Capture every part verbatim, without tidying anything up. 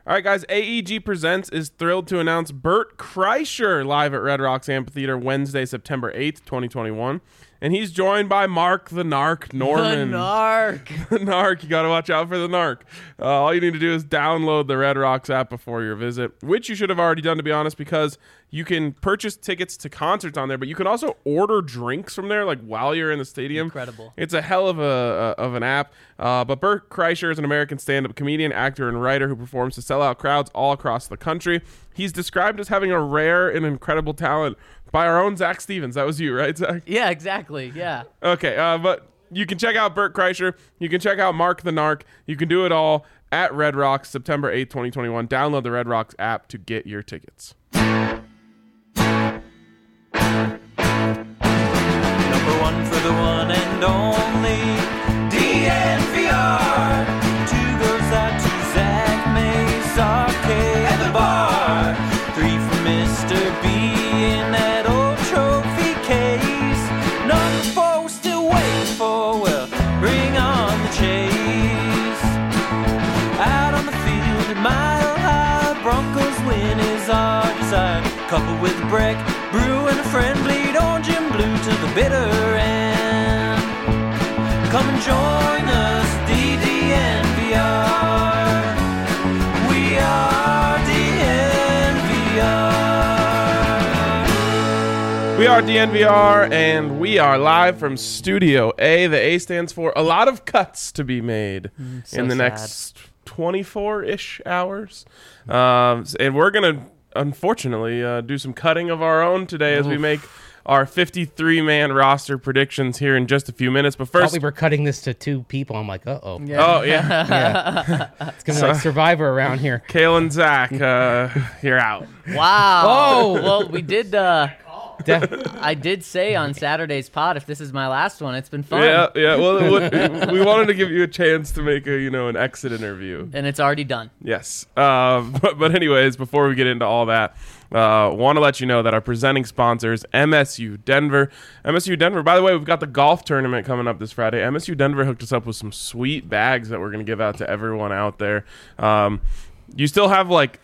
All right, guys, A E G Presents is thrilled to announce Bert Kreischer live at Red Rocks Amphitheater Wednesday, September eighth, twenty twenty-one. And he's joined by Mark the Narc Norman. The Narc. The Narc. You got to watch out for the Narc. Uh, all you need to do is download the Red Rocks app before your visit, which you should have already done, to be honest, because you can purchase tickets to concerts on there, but you can also order drinks from there, like while you're in the stadium. Incredible. It's a hell of a, a of an app. Uh, but Bert Kreischer is an American stand-up comedian, actor, and writer who performs to sell-out crowds all across the country. He's described as having a rare and incredible talent by our own Zach Stevens. That was you, right, Zach? Yeah, exactly. Yeah. Okay, uh, but you can check out Bert Kreischer. You can check out Mark the Narc. You can do it all at Red Rocks, September eighth, twenty twenty-one. Download the Red Rocks app to get your tickets. Number one for the one and only D N V R. Two goes out to Zach Mays, Arcade, and the bar. Three for Mister B in that old trophy case. Number four we're still waiting for. Well, bring on the chase. Out on the field at Mile High, Broncos win is our desire. Couple with Breck, Brew, and a friend bleed orange and blue to the bitter end. Come and join us, D D N V R. We are D N V R. We are D N V R, and we are live from Studio A. The A stands for a lot of cuts to be made Mm, so in the sad. next twenty-four-ish hours. Um, and we're going to, unfortunately, uh, do some cutting of our own today as we Oof. make our fifty-three man roster predictions here in just a few minutes. But Thought first, we were cutting this to two people. I'm like, uh-oh. oh, yeah, Yeah. It's going to be like Survivor around here. Kale and Zach, uh, you're out. Wow. Oh. Well, we did. Uh, De- I did say on Saturday's pod, if this is my last one, it's been fun. Yeah, yeah. Well, it- we wanted to give you a chance to make a, you know, an exit interview. And it's already done. Yes. Um, but, but anyways, before we get into all that, uh, want to let you know that our presenting sponsor is M S U Denver. M S U Denver, by the way, we've got the golf tournament coming up this Friday. M S U Denver hooked us up with some sweet bags that we're going to give out to everyone out there. Um, you still have like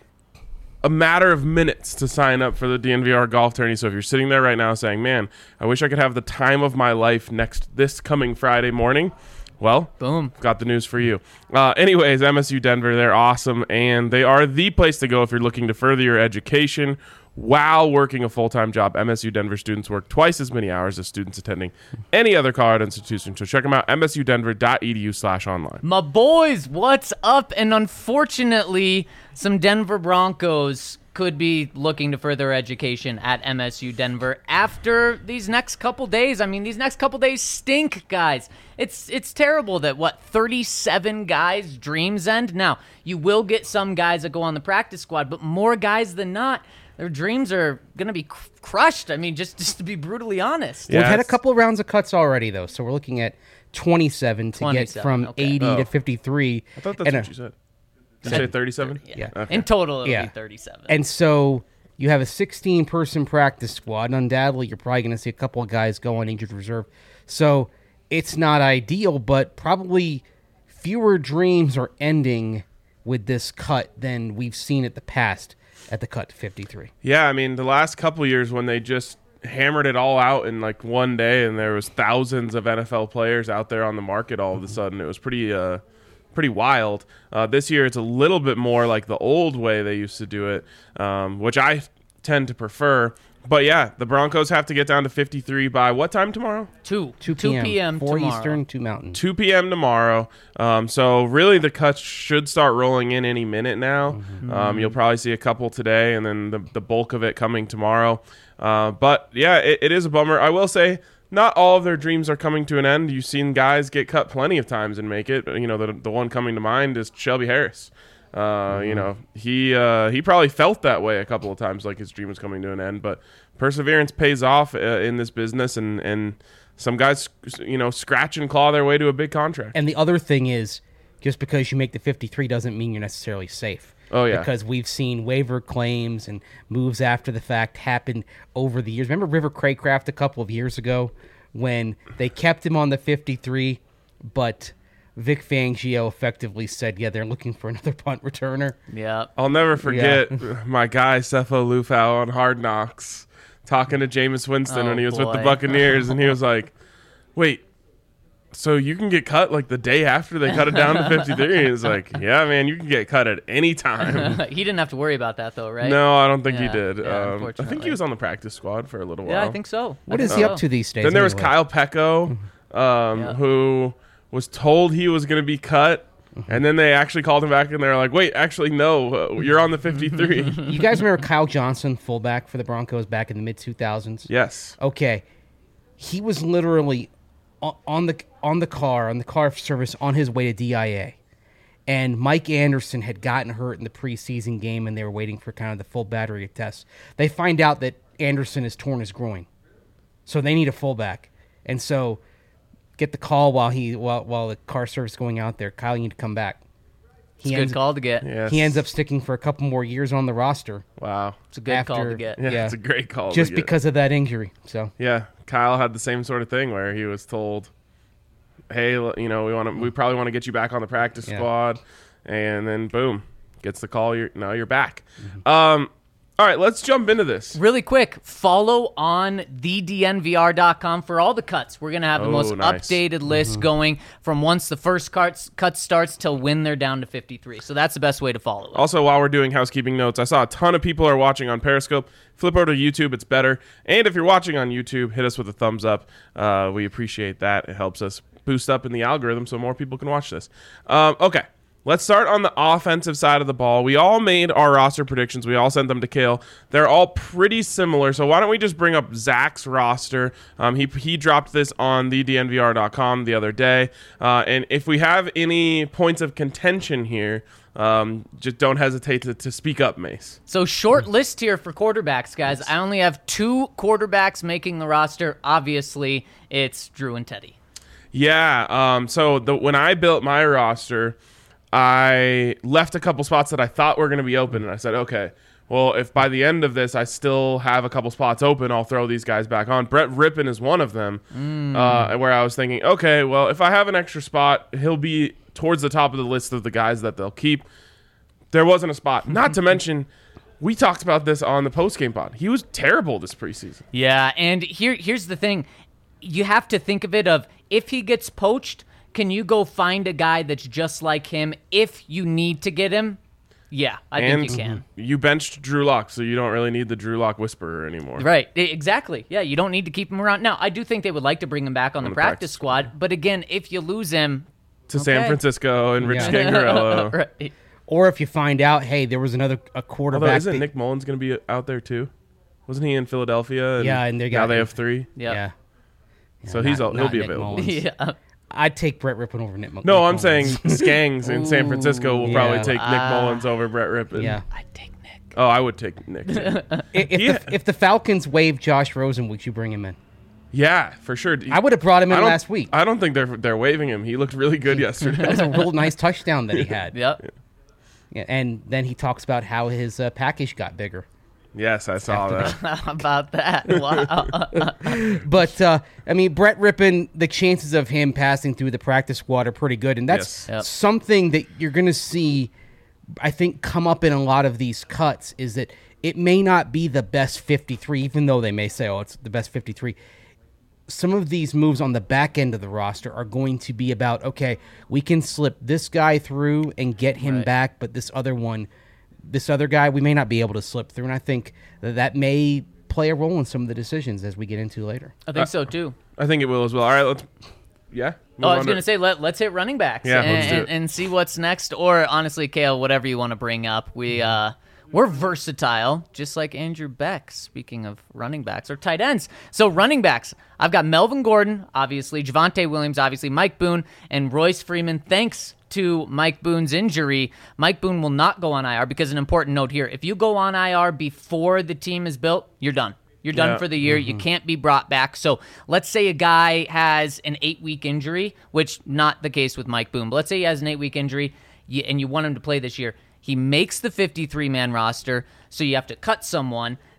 a matter of minutes to sign up for the D N V R golf tourney. So if you're sitting there right now saying, man, I wish I could have the time of my life next this coming Friday morning, well, Boom. got the news for you. Uh, anyways, M S U Denver, they're awesome, and they are the place to go if you're looking to further your education while working a full-time job. M S U Denver students work twice as many hours as students attending any other Colorado institution. So check them out, m s u denver dot e d u slash online. My boys, what's up? And unfortunately, some Denver Broncos could be looking to further education at M S U Denver after these next couple days. I mean, these next couple days stink, guys. It's it's terrible that, what, thirty-seven guys' dreams end? Now, you will get some guys that go on the practice squad, but more guys than not, their dreams are going to be cr- crushed. I mean, just, just to be brutally honest. Yeah. We've had a it's- couple of rounds of cuts already, though, so we're looking at twenty-seven to get twenty-seven, from okay. eighty Oh. to fifty-three. I thought that's and, what uh, you said. Did you say thirty-seven? Yeah. Yeah. Okay. In total, it'll Yeah. be thirty-seven. And so you have a sixteen-person practice squad, and undoubtedly you're probably going to see a couple of guys go on injured reserve. So it's not ideal, but probably fewer dreams are ending with this cut than we've seen at the past at the cut to fifty-three. Yeah, I mean, the last couple of years when they just hammered it all out in like one day and there was thousands of N F L players out there on the market all of a sudden, it was pretty uh, pretty wild. Uh, this year it's a little bit more like the old way they used to do it, um, which I tend to prefer. But yeah, the Broncos have to get down to fifty-three by what time tomorrow? two. two two p.m. p.m. four tomorrow. Eastern, two Mountain. two p.m. tomorrow. Um, so really the cuts should start rolling in any minute now. Mm-hmm. Um, you'll probably see a couple today and then the, the bulk of it coming tomorrow. Uh, but yeah, it, it is a bummer. I will say not all of their dreams are coming to an end. You've seen guys get cut plenty of times and make it. You know, the, the one coming to mind is Shelby Harris. Uh, Mm-hmm. You know, he uh, he probably felt that way a couple of times, like his dream was coming to an end. But perseverance pays off uh, in this business, and, and some guys, you know, scratch and claw their way to a big contract. And the other thing is, just because you make the fifty-three doesn't mean you're necessarily safe. Oh, yeah. Because we've seen waiver claims and moves after the fact happen over the years. Remember River Craycraft a couple of years ago when they kept him on the fifty-three, but Vic Fangio effectively said, yeah, they're looking for another punt returner. Yeah. I'll never forget my guy Sefo Lufau on Hard Knocks talking to Jameis Winston Oh, when he was with the boy. Buccaneers, and he was like, "Wait, so you can get cut like the day after they cut it down to fifty-three?" And he's like, "Yeah, man, you can get cut at any time." He didn't have to worry about that, though, right? No, I don't think he Yeah, did. yeah, um, I think unfortunately. he was on the practice squad for a little while. Yeah, I think so. What I is think he so. up to these days? Then there was anyway? Kyle Pecco, um, Yeah. who was told he was going to be cut, and then they actually called him back, and they're like, "Wait, actually, no, uh, you're on the fifty-three." You guys remember Kyle Johnson, fullback for the Broncos back in the mid two thousands? Yes. Okay, he was literally o- on the on the car on the car service on his way to D I A, and Mike Anderson had gotten hurt in the preseason game, and they were waiting for kind of the full battery of tests. They find out that Anderson has torn his groin, so they need a fullback, and so get the call while he while while the car service is going out there. Kyle, you need to come back. It's He a ends, good call to get. Yes. he ends up sticking for a couple more years on the roster Wow. It's a good call after- to get. Yeah, Yeah. it's a great call. to just get. because of that injury. So Yeah, Kyle had the same sort of thing where he was told, "Hey, l- you know, we want to, we probably want to get you back on the practice Yeah. squad," and then boom, gets the call. You're now you're back. Mm-hmm. Um, all right, let's jump into this. Really quick, follow on the D N V R dot com for all the cuts. We're going to have the Oh, most nice. updated list Mm-hmm. going from once the first cut, cut starts till when they're down to fifty-three. So that's the best way to follow it. Also, while we're doing housekeeping notes, I saw a ton of people are watching on Periscope. Flip over to YouTube; it's better. And if you're watching on YouTube, hit us with a thumbs up. Uh, we appreciate that. It helps us boost up in the algorithm so more people can watch this. Um, okay. Let's start on the offensive side of the ball. We all made our roster predictions. We all sent them to Kale. They're all pretty similar. So why don't we just bring up Zach's roster? Um, he he dropped this on the D N V R dot com the other day. Uh, and if we have any points of contention here, um, just don't hesitate to, to speak up, Mace. So short list here for quarterbacks, guys. I only have two quarterbacks making the roster. Obviously, it's Drew and Teddy. Yeah. Um, so the, when I built my roster, I left a couple spots that I thought were going to be open, and I said, okay, well, if by the end of this I still have a couple spots open, I'll throw these guys back on. Brett Rippon is one of them, uh, where I was thinking, okay, well, if I have an extra spot, he'll be towards the top of the list of the guys that they'll keep. There wasn't a spot. Not to mention, we talked about this on the postgame pod. He was terrible this preseason. Yeah, and here here's the thing. You have to think of it of if he gets poached, can you go find a guy that's just like him if you need to get him? Yeah, I and think you can. you benched Drew Lock, so you don't really need the Drew Lock whisperer anymore. Right, e- exactly. Yeah, you don't need to keep him around. Now, I do think they would like to bring him back on, the, the practice, practice squad, but again, if you lose him, To San Okay. Francisco and Rich Yeah. Gangarello. right. or if you find out, hey, there was another a quarterback. Although, isn't that- Nick Mullins going to be out there too? Wasn't he in Philadelphia? And Yeah, and they now got- they have three. Yep. Yeah. So he's not- all, he'll not be Nick available. Mullins. Yeah. I'd take Brett Rippon over Nick Mullins. No, I'm saying Skangs in San Francisco will Ooh, probably yeah. take Nick Ah. Mullins over Brett Rippon. Yeah. I'd take Nick. Oh, I would take Nick. too. If, Yeah. the, if the Falcons waive Josh Rosen, would you bring him in? yeah, for sure. I would have brought him I in don't- last week. I don't think they're they're waiving him. He looked really good yesterday. That was a real nice touchdown that he had. Yep. Yeah, and then he talks about how his uh, package got bigger. Yes, I saw that. How about that? Wow. But, uh, I mean, Brett Rippon, the chances of him passing through the practice squad are pretty good. And that's Yes. Yep. something that you're going to see, I think, come up in a lot of these cuts is that it may not be the best fifty-three, even though they may say, oh, it's the best fifty-three. Some of these moves on the back end of the roster are going to be about, okay, we can slip this guy through and get him Right. back, but this other one, this other guy, we may not be able to slip through. And I think that that may play a role in some of the decisions as we get into later. I think so too. I think it will as well. All right, let's. Yeah. move Oh, I on was to- going to say, let, let's hit running backs Yeah, and, let's do and, it. and see what's next. Or, honestly, Kale, whatever you want to bring up. We, uh, we're versatile, just like Andrew Beck, speaking of running backs, or tight ends. So, running backs, I've got Melvin Gordon, obviously, Javonte Williams, obviously, Mike Boone, and Royce Freeman. Thanks to Mike Boone's injury, Mike Boone will not go on I R because an important note here, if you go on I R before the team is built, you're done. You're done Yeah. for the year. You can't be brought back. So let's say a guy has an eight-week injury, which not the case with Mike Boone, but let's say he has an eight-week injury you- and you want him to play this year. He makes the fifty-three man roster, so you have to cut someone.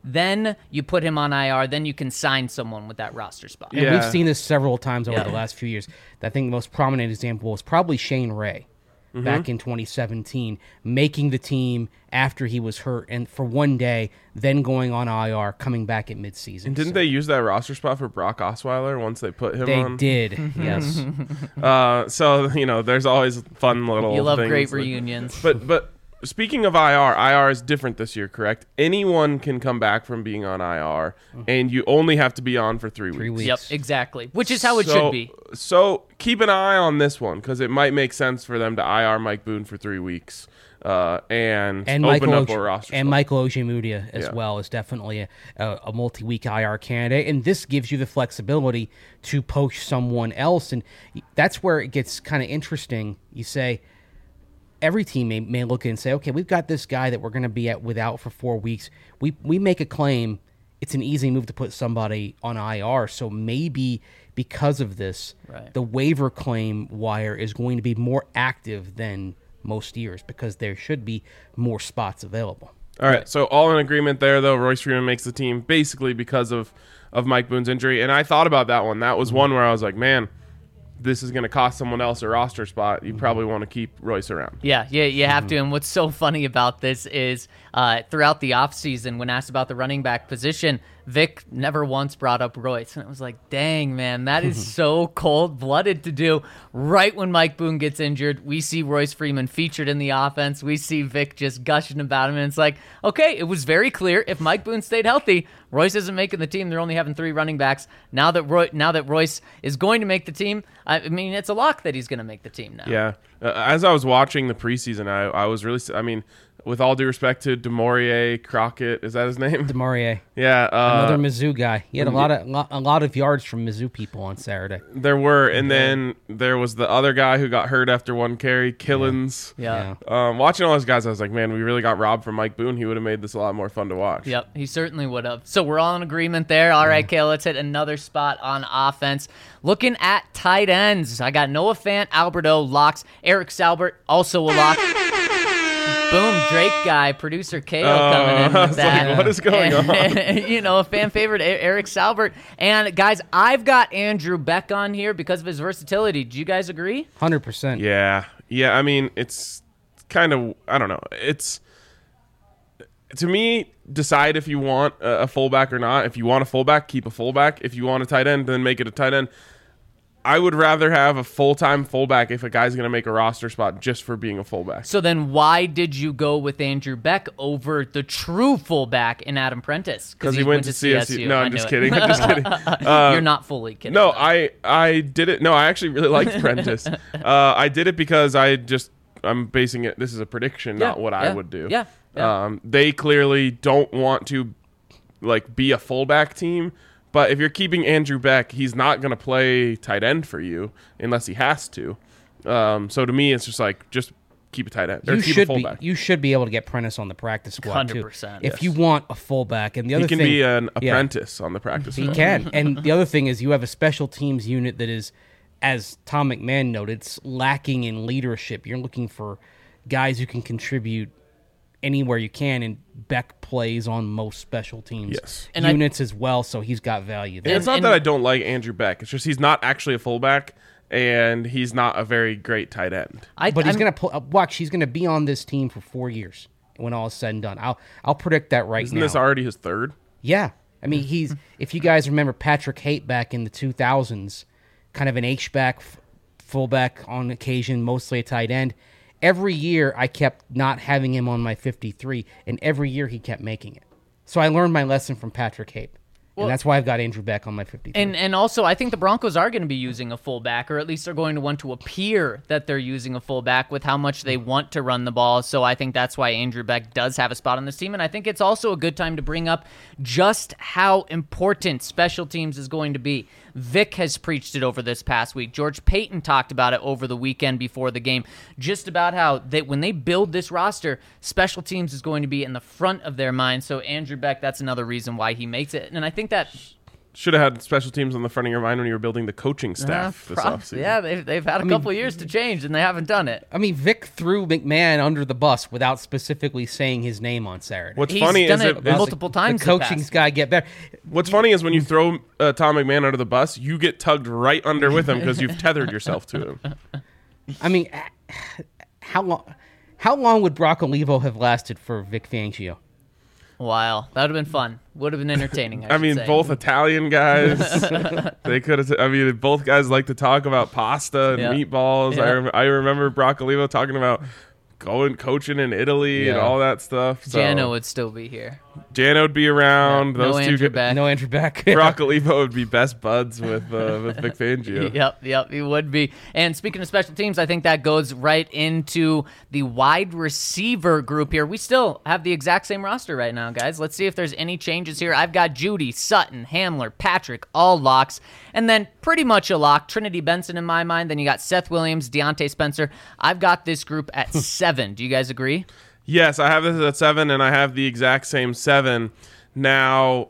then you put him on I R, then you can sign someone with that roster spot. And Yeah. we've seen this several times over Yeah. the last few years. I think the most prominent example was probably Shane Ray Mm-hmm. back in twenty seventeen, making the team after he was hurt and for one day, then going on I R, coming back at midseason. And didn't So they use that roster spot for Brock Osweiler once they put him They on? did, yes. Uh, so you know, there's always fun little. You love things great like- reunions. But but speaking of I R, I R is different this year, correct? Anyone can come back from being on I R, and you only have to be on for three, Three weeks. Yep, exactly. Which is how it So- should be. So keep an eye on this one because it might make sense for them to I R Mike Boone for three weeks uh, and, And open Michael up Oje- a roster. and spot. Michael Ojemudia as Yeah. well is definitely a, a, a multi-week I R candidate, and this gives you the flexibility to poach someone else, and that's where it gets kind of interesting. You say every team may, may look and say, okay, we've got this guy that we're going to be at without for four weeks. We we make a claim. It's an easy move to put somebody on I R, so maybe because of this, Right. the waiver claim wire is going to be more active than most years because there should be more spots available. All right, so all in agreement there, though. Royce Freeman makes the team basically because of, of Mike Boone's injury. And I thought about that one. That was one where I was like, man, this is going to cost someone else a roster spot. You probably want to keep Royce around. Yeah, yeah, you have to. And what's so funny about this is uh, throughout the offseason, when asked about the running back position, Vic never once brought up Royce. And it was like, dang, man, that is so cold-blooded to do. Right when Mike Boone gets injured, we see Royce Freeman featured in the offense. We see Vic just gushing about him. And it's like, okay, it was very clear. If Mike Boone stayed healthy, Royce isn't making the team. They're only having three running backs. Now that Roy, now that Royce is going to make the team, I mean, it's a lock that he's going to make the team now. Yeah. Uh, as I was watching the preseason, I, I was really, I mean, with all due respect to Demorier Crockett, is that his name? Demarie, yeah. Uh, another Mizzou guy. He had a lot of lo- a lot of yards from Mizzou people on Saturday. there were. And then there was the other guy who got hurt after one carry, Killens. Yeah. Um, watching all those guys, I was like, man, we really got robbed from Mike Boone. He would have made this a lot more fun to watch. Yep, he certainly would have. So we're all in agreement there. All right, Kale, let's hit another spot on offense. Looking at tight ends, I got Noah Fant, Alberto, locks. Eric Salbert, also a lock. Boom, Drake guy, producer K O coming in I with was that. like, what is going on? You know, a fan favorite, E- Eric Salbert. And guys, I've got Andrew Beck on here because of his versatility. Do you guys agree? Hundred percent. Yeah. Yeah. I mean, it's kind of, I don't know. It's, to me, decide if you want a, a fullback or not. If you want a fullback, keep a fullback. If you want a tight end, then make it a tight end. I would rather have a full-time fullback if a guy's going to make a roster spot just for being a fullback. So then why did you go with Andrew Beck over the true fullback in Adam Prentice? Because he went to C S U. No, I I'm knew just it. kidding. I'm just kidding. Uh, You're not fully kidding. No, I I did it. No, I actually really liked Prentice. uh, I did it because I just I'm basing it. This is a prediction, Yeah, not what I yeah, would do. yeah, yeah. Um, they clearly don't want to like be a fullback team. But if you're keeping Andrew Beck, he's not going to play tight end for you unless he has to. Um, so to me, it's just like just keep a tight end or You keep should a be fullback. you should be able to get Prentice on the practice squad one hundred too. percent, If yes. you want a fullback, and the other he can thing, be an yeah. apprentice on the practice He squad. can. And the other thing is you have a special teams unit that is, as Tom McMahon noted, it's lacking in leadership. You're looking for guys who can contribute anywhere you can, and Beck plays on most special teams Yes. And I- units as well, so he's got value there. And it's not and- that I don't like Andrew Beck. It's just he's not actually a fullback, and he's not a very great tight end. I, But he's I'm- gonna pull, uh, watch. He's gonna be on this team for four years when all is said and done. I'll I'll predict that right Isn't now. this already his third? Yeah. I mean, he's, if you guys remember Patrick Haight back in the two thousands, kind of an H-back, f- fullback on occasion, mostly a tight end. Every year I kept not having him on my fifty-three, and every year he kept making it. So I learned my lesson from Patrick Haight. And that's why I've got Andrew Beck on my fifty-three. And and also, I think the Broncos are going to be using a fullback, or at least they're going to want to appear that they're using a fullback with how much they want to run the ball. So I think that's why Andrew Beck does have a spot on this team. And I think it's also a good time to bring up just how important special teams is going to be. Vic has preached it over this past week. George Payton talked about it over the weekend before the game, just about how they, when they build this roster, special teams is going to be in the front of their mind. So Andrew Beck, that's another reason why he makes it. And I think that should have had special teams on the front of your mind when you were building the coaching Uh, staff this prob- offseason. yeah, they've, they've had a mean, couple years to change, and they haven't done it. I mean, Vic threw McMahon under the bus without specifically saying his name on Saturday. What's He's funny done is it it, Well, multiple the, times. The in the coaching's past. got to get better. what's funny is when you throw uh, Tom McMahon under the bus, you get tugged right under with him because you've tethered yourself to him. I mean, how long? How long would Brock Olivo have lasted for Vic Fangio? Wow, that would have been fun. Would have been entertaining. I, I should mean, say. both Italian guys. They could have. I mean, both guys like to talk about pasta and Yeah. meatballs. I, Yeah. rem- I remember Brock Olivo talking about going coaching in Italy and Yeah. all that stuff. So Jano would still be here. Jano would be around. no Those two. Andrew Could, Beck. No Andrew Beck. Brock Olivo would be best buds with uh, with Vic Fangio. Yep, yep, he would be. And speaking of special teams, I think that goes right into the wide receiver group here. We still have the exact same roster right now, guys. Let's see if there's any changes here. I've got Judy, Sutton, Hamler, Patrick, all locks. And then pretty much a lock, Trinity Benson in my mind. Then you got Seth Williams, Deontay Spencer. I've got this group at seven. Do you guys agree? Yes, I have this at seven, and I have the exact same seven. Now,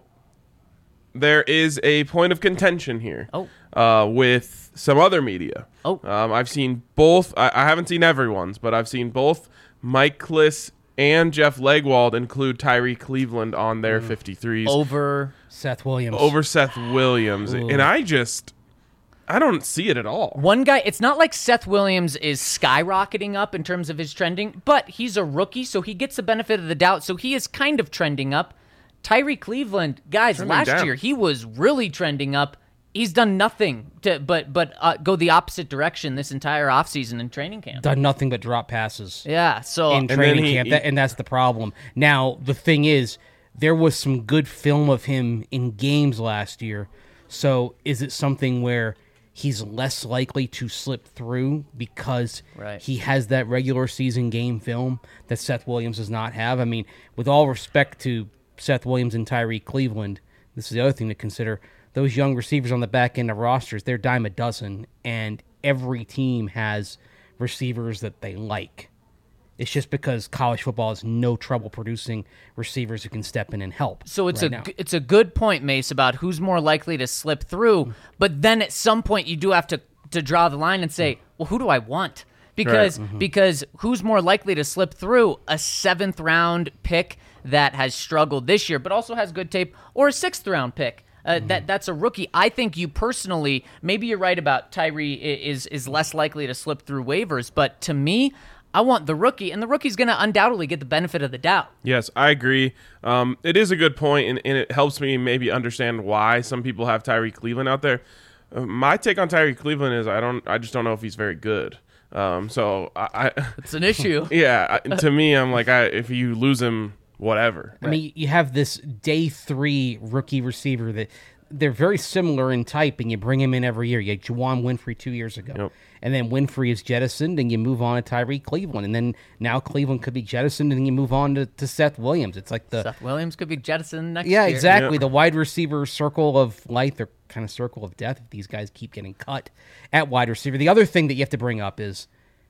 there is a point of contention here. Oh. Uh, with some other media. Oh. Um, I've seen both. I, I haven't seen everyone's, but I've seen both Mike Kliss and Jeff Legwald include Tyree Cleveland on their fifty-threes Over. Seth Williams. over Seth Williams, Ooh. and I just I don't see it at all. One guy, it's not like Seth Williams is skyrocketing up in terms of his trending, but he's a rookie, so he gets the benefit of the doubt. So he is kind of trending up. Tyree Cleveland, guys, Trending last down. year he was really trending up. He's done nothing to but but uh, go the opposite direction this entire offseason in training camp. Done nothing but drop passes Yeah, so in then training he- camp, he- that, and that's the problem. Now, the thing is, there was some good film of him in games last year. So is it something where he's less likely to slip through because Right. he has that regular season game film that Seth Williams does not have? I mean, with all respect to Seth Williams and Tyree Cleveland, this is the other thing to consider. Those young receivers on the back end of rosters, they're dime a dozen, and every team has receivers that they like. It's just because college football has no trouble producing receivers who can step in and help. So it's right a now. g- it's a good point, Mace, about who's more likely to slip through. But then at some point, you do have to to draw the line and say, well, who do I want? Because because who's more likely to slip through? A seventh round pick that has struggled this year, but also has good tape, or a sixth round pick. Uh, that that's a rookie. I think you personally, maybe you're right about Tyree i- is is less likely to slip through waivers, but to me, I want the rookie, and the rookie's going to undoubtedly get the benefit of the doubt. Yes, I agree. Um, it is a good point, and, and it helps me maybe understand why some people have Tyree Cleveland out there. Uh, my take on Tyree Cleveland is I don't, I just don't know if he's very good. Um, so I, I It's an issue. yeah, I, to me, I'm like, I, if you lose him, whatever. I mean, you have this day three rookie receiver that they're very similar in type, and you bring him in every year. You had Juwan Winfrey two years ago. Yep. And then Winfrey is jettisoned, and you move on to Tyree Cleveland. And then now Cleveland could be jettisoned, and then you move on to, to Seth Williams. It's like the... Seth Williams could be jettisoned next Yeah, year. exactly. Yeah. The wide receiver circle of life, or kind of circle of death if these guys keep getting cut at wide receiver. The other thing that you have to bring up is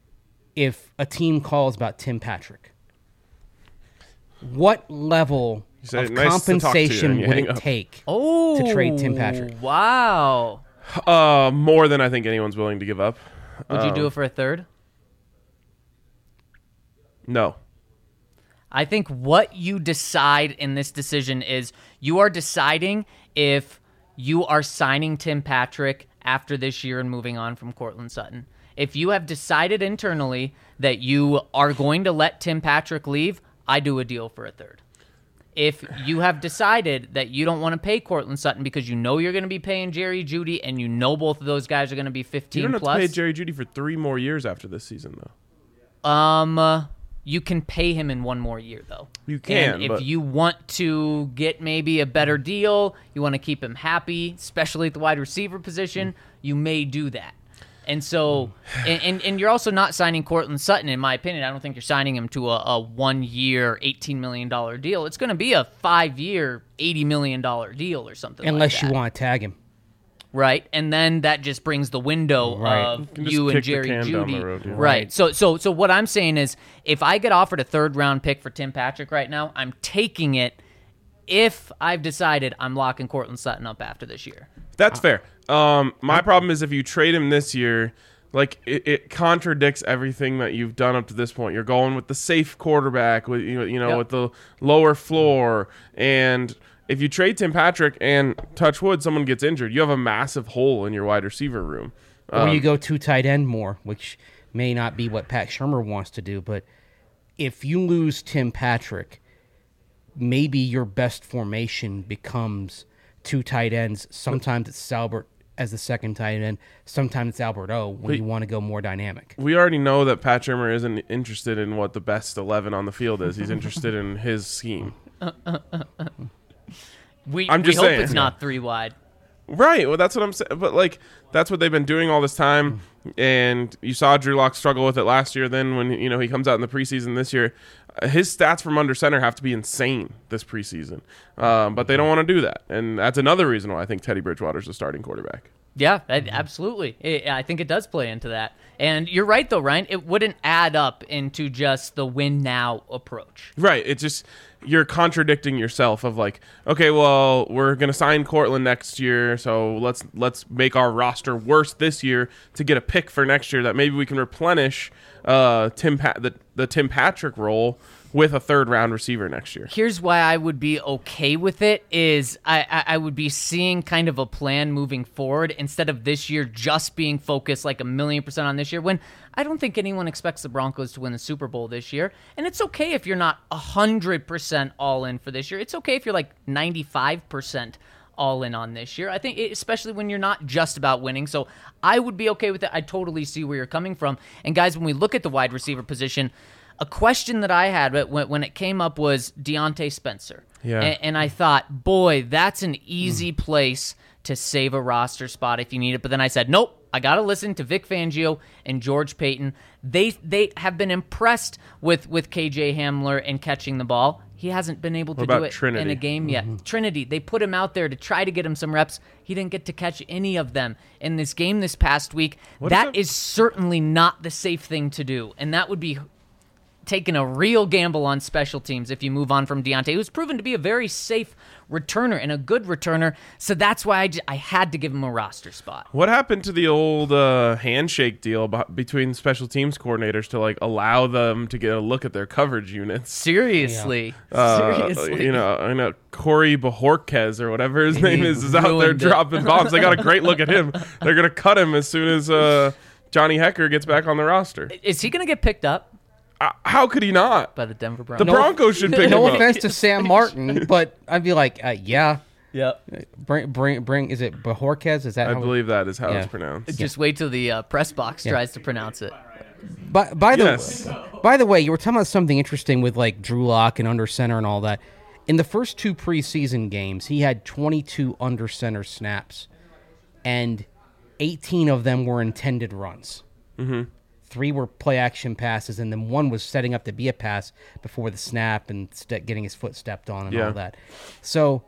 if a team calls about Tim Patrick, what level said, of "Nice to talk to you," compensation and you would hang it up. take Oh, to trade Tim Patrick? Wow. Uh, more than I think anyone's willing to give up. Would you Um, do it for a third? No. I think what you decide in this decision is you are deciding if you are signing Tim Patrick after this year and moving on from Cortland Sutton. If you have decided internally that you are going to let Tim Patrick leave, I do a deal for a third. If you have decided that you don't want to pay Cortland Sutton because you know you're going to be paying Jerry Jeudy and you know both of those guys are going to be You fifteen don't have plus, to pay Jerry Jeudy for three more years after this season, though. Um, uh, you can pay him in one more year, though. You can, And if but- you want to get maybe a better deal, you want to keep him happy, especially at the wide receiver position, you may do that. And so, and, and and you're also not signing Cortland Sutton, in my opinion. I don't think you're signing him to a, a one-year, eighteen million dollars deal. It's going to be a five-year, eighty million dollars deal or something Unless like you that. want to tag him. Right, and then that just brings the window Right. of You can just you and kick the Jerry can down Jeudy. the road, yeah. Right. So, so, so what I'm saying is, if I get offered a third round pick for Tim Patrick right now, I'm taking it if I've decided I'm locking Cortland Sutton up after this year. That's fair. Um, my problem is if you trade him this year, like it, it contradicts everything that you've done up to this point. You're going with the safe quarterback, with you know, you know Yep. with the lower floor, and if you trade Tim Patrick and touch wood, someone gets injured, you have a massive hole in your wide receiver room. Or you Um, go two tight end more, which may not be what Pat Shermer wants to do. But if you lose Tim Patrick, maybe your best formation becomes two tight ends. Sometimes it's Salbert as the second tight end. Sometimes it's Albert O when But- you want to go more dynamic. we already know that Pat Shermer isn't interested in what the best eleven on the field is. He's interested in his scheme. We, I'm just we hope saying. it's not three wide. Right. Well, that's what I'm saying. But like, that's what they've been doing all this time. And you saw Drew Lock struggle with it last year. Then when you know he comes out in the preseason this year, uh, his stats from under center have to be insane this preseason. Um, but they don't want to do that, and that's another reason why I think Teddy Bridgewater's the starting quarterback. Yeah, I- absolutely. It, I think it does play into that. And you're right, though, Ryan. It wouldn't add up into just the win now approach. Right. It just you're contradicting yourself of like, okay, well, we're gonna sign Cortland next year, so let's let's make our roster worse this year to get a pick for next year that maybe we can replenish uh, Tim pa- the the Tim Patrick role with a third round receiver next year. Here's why I would be okay with it is I, I, I would be seeing kind of a plan moving forward instead of this year just being focused like a million percent on this year when I don't think anyone expects the Broncos to win the Super Bowl this year. And it's okay if you're not one hundred percent all in for this year. It's okay if you're like ninety-five percent all in on this year. I think it, especially when you're not just about winning. So I would be okay with it. I totally see where you're coming from. And guys, when we look at the wide receiver position, a question that I had when, when it came up was Deontay Spencer. Yeah. A- and I thought, boy, that's an easy place to save a roster spot if you need it. But then I said, nope, I got to listen to Vic Fangio and George Payton. They they have been impressed with, with K J Hamler and catching the ball. He hasn't been able to What do about it Trinity? in a game yet. Trinity, they put him out there to try to get him some reps. He didn't get to catch any of them in this game this past week. What That if it- is certainly not the safe thing to do. And that would be taking a real gamble on special teams if you move on from Deontay, who's proven to be a very safe returner and a good returner. So that's why I, j- I had to give him a roster spot. What happened to the old uh, handshake deal b- between special teams coordinators to like allow them to get a look at their coverage units? Seriously. Uh, Seriously. you know, I know Corey Bajorquez or whatever his name is is out there ruined it. dropping bombs. They got a great look at him. They're gonna cut him as soon as uh, Johnny Hecker gets back on the roster. Is he going to get picked up Uh, how could he not? by the Denver The Broncos? Broncos should pick No him up. offense to Sam Martin, but I'd be like, uh, yeah, Yep. bring, bring, bring. Is it Bajorquez? Is that I how believe that is how Yeah. it's pronounced. Just wait till the uh, press box tries to pronounce it. By, by the Yes. by the way, you were talking about something interesting with like Drew Lock and under center and all that. In the first two preseason games, he had twenty-two under center snaps, and eighteen of them were intended runs. Mm-hmm. Three were play action passes, and then one was setting up to be a pass before the snap and ste- getting his foot stepped on and Yeah. all that. So,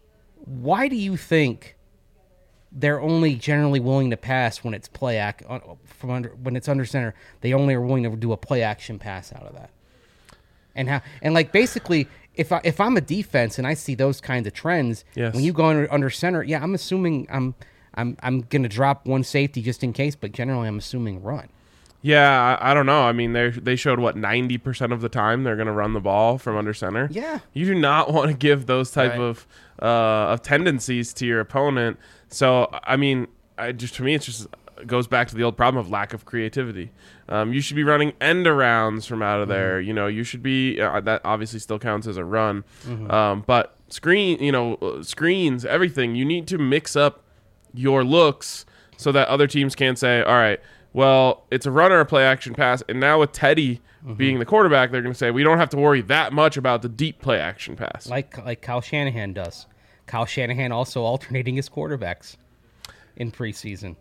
why do you think they're only generally willing to pass when it's play act uh, from under when it's under center? They only are willing to do a play action pass out of that. And how and like basically, if I if I'm a defense and I see those kinds of trends, Yes. when you go under, under center, yeah, I'm assuming I'm I'm I'm gonna drop one safety just in case, but generally I'm assuming run. Yeah, I, I don't know. I mean, they they showed what ninety percent of the time they're going to run the ball from under center. Yeah. you do not want to give those type Right. of uh, of tendencies to your opponent. So, I mean, I just to me, it just goes back to the old problem of lack of creativity. Um, you should be running end arounds from out of there. You know, you should be uh, that obviously still counts as a run, um, but screen, you know, uh, screens, everything. You need to mix up your looks so that other teams can say, all right, well, it's a run or a play action pass. And now with Teddy being the quarterback, they're going to say, we don't have to worry that much about the deep play action pass. Like like Kyle Shanahan does. Kyle Shanahan also alternating his quarterbacks in preseason.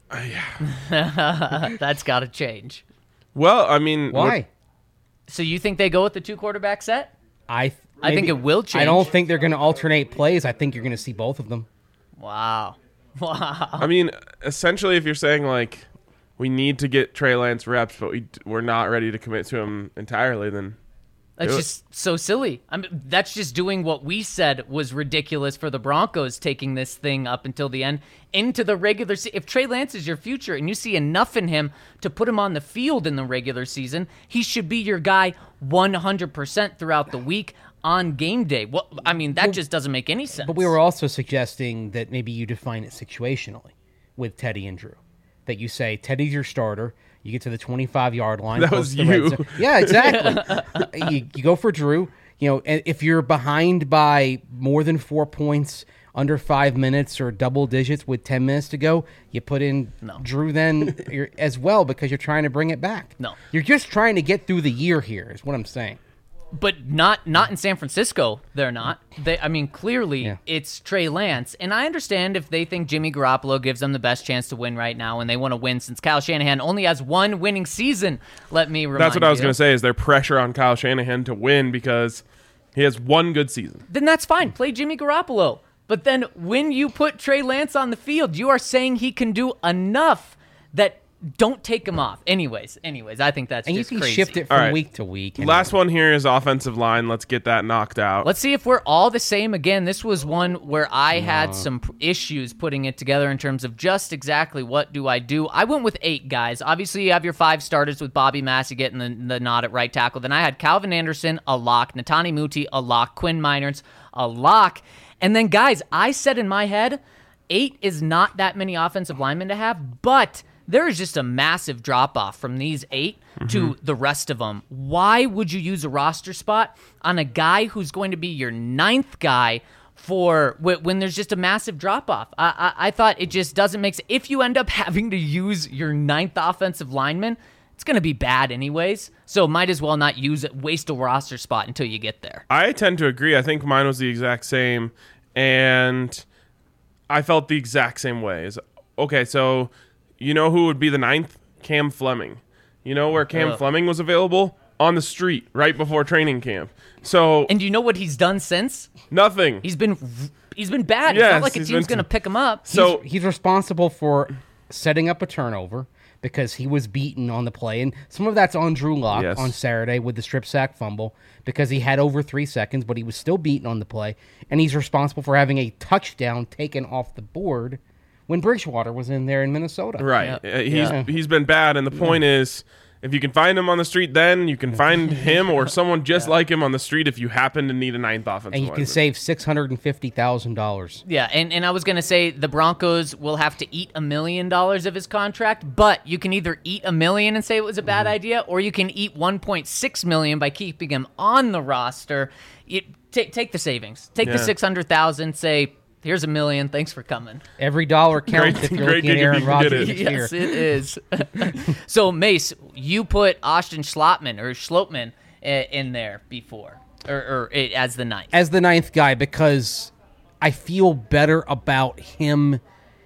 That's got to change. Well, I mean, Why? So you think they go with the two quarterback set? I th- I think maybe- it will I change. don't think they're going to alternate plays. I think you're going to see both of them. Wow. Wow. I mean, essentially, if you're saying, like, we need to get Trey Lance reps, but we, we're not ready to commit to him entirely, then That's Do it. just so silly. I mean, that's just doing what we said was ridiculous for the Broncos, taking this thing up until the end into the regular season. If Trey Lance is your future and you see enough in him to put him on the field in the regular season, he should be your guy one hundred percent throughout the week on game day. Well, I mean, that just doesn't make any sense. But we were also suggesting that maybe you define it situationally with Teddy and Drew. That you say, Teddy's your starter. You get to the twenty-five-yard line. That close was to the red you. zone. Yeah, exactly. you, you go for Drew. You know, and if you're behind by more than four points, under five minutes or double digits with ten minutes to go, you put in No. Drew then you're, as well because you're trying to bring it back. No. You're just trying to get through the year here is what I'm saying. But not not in San Francisco, they're not. They, I mean, clearly Yeah. it's Trey Lance. And I understand if they think Jimmy Garoppolo gives them the best chance to win right now and they want to win since Kyle Shanahan only has one winning season, let me remind That's what I was you. going to say. Is there pressure on Kyle Shanahan to win because he has one good season? Then that's fine. Play Jimmy Garoppolo. But then when you put Trey Lance on the field, you are saying he can do enough that don't take him off. Anyways, anyways, I think that's And you just can crazy. shift it from All right. week to week. and- Last one here is offensive line. Let's get that knocked out. Let's see if we're all the same again. This was one where I had some p- issues putting it together in terms of just exactly what do I do. I went with eight guys. Obviously, you have your five starters with Bobby Massey getting the, the nod at right tackle. Then I had Calvin Anderson, a lock, Netani Muti, a lock, Quinn Miners, a lock. And then, guys, I said in my head, eight is not that many offensive linemen to have, but there is just a massive drop-off from these eight to the rest of them. Why would you use a roster spot on a guy who's going to be your ninth guy for wh- when there's just a massive drop-off? I, I, I thought it just doesn't make sense. If you end up having to use your ninth offensive lineman, it's going to be bad anyways, so might as well not use it, waste a roster spot until you get there. I tend to agree. I think mine was the exact same, and I felt the exact same way. Is okay, so you know who would be the ninth? Cam Fleming. You know where Cam Ugh. Fleming was available? On the street, right before training camp. So And you know what he's done since? nothing. He's been he's been bad. It's Yes, not like a he's team's been- going to pick him up. so he's responsible for setting up a turnover because he was beaten on the play. And some of that's on Drew Lock Yes. on Saturday with the strip sack fumble because he had over three seconds, but he was still beaten on the play. And he's responsible for having a touchdown taken off the board when Bridgewater was in there in Minnesota. right, Yeah. Uh, he's Yeah. he's been bad, and the point is, if you can find him on the street, then you can find him or someone just like him on the street if you happen to need a ninth offensive And you can lineman. save six hundred fifty thousand dollars. Yeah, and, and I was going to say the Broncos will have to eat a million dollars of his contract, but you can either eat a million and say it was a bad idea, or you can eat one point six million by keeping him on the roster. You, take take the savings. Take the Yeah. six hundred thousand, say, here's a million, thanks for coming. Every dollar counts Great- if you're great looking at gig if Aaron you can get Rodgers it. this Yes, year. it is. So, Mace, you put Austin Schlottman or Schlotman uh, in there before, or, or uh, as the ninth. As the ninth guy because I feel better about him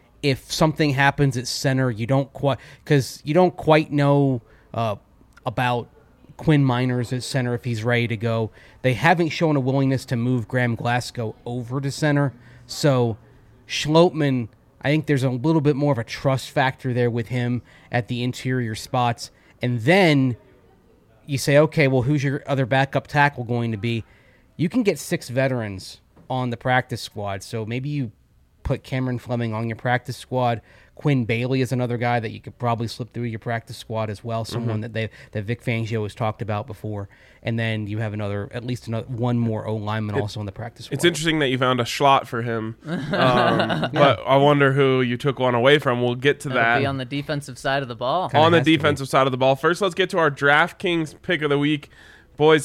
if something happens at center. You don't quite because you don't quite know uh, about Quinn Miners at center if he's ready to go. They haven't shown a willingness to move Graham Glasgow over to center, so Schlotman, I think there's a little bit more of a trust factor there with him at the interior spots, and then you say, okay, well, who's your other backup tackle going to be? You can get six veterans on the practice squad. So maybe you put Cameron Fleming on your practice squad. Quinn Bailey is another guy that you could probably slip through your practice squad as well. Someone Mm-hmm. that they that Vic Fangio has talked about before. And then you have another, at least another one more O lineman also on the practice squad. It's interesting that you found a slot for him, um, but I wonder who you took one away from. We'll get to That'll that be on the defensive side of the ball. Kinda on the has to be. defensive side of the ball. First, let's get to our DraftKings pick of the week, boys.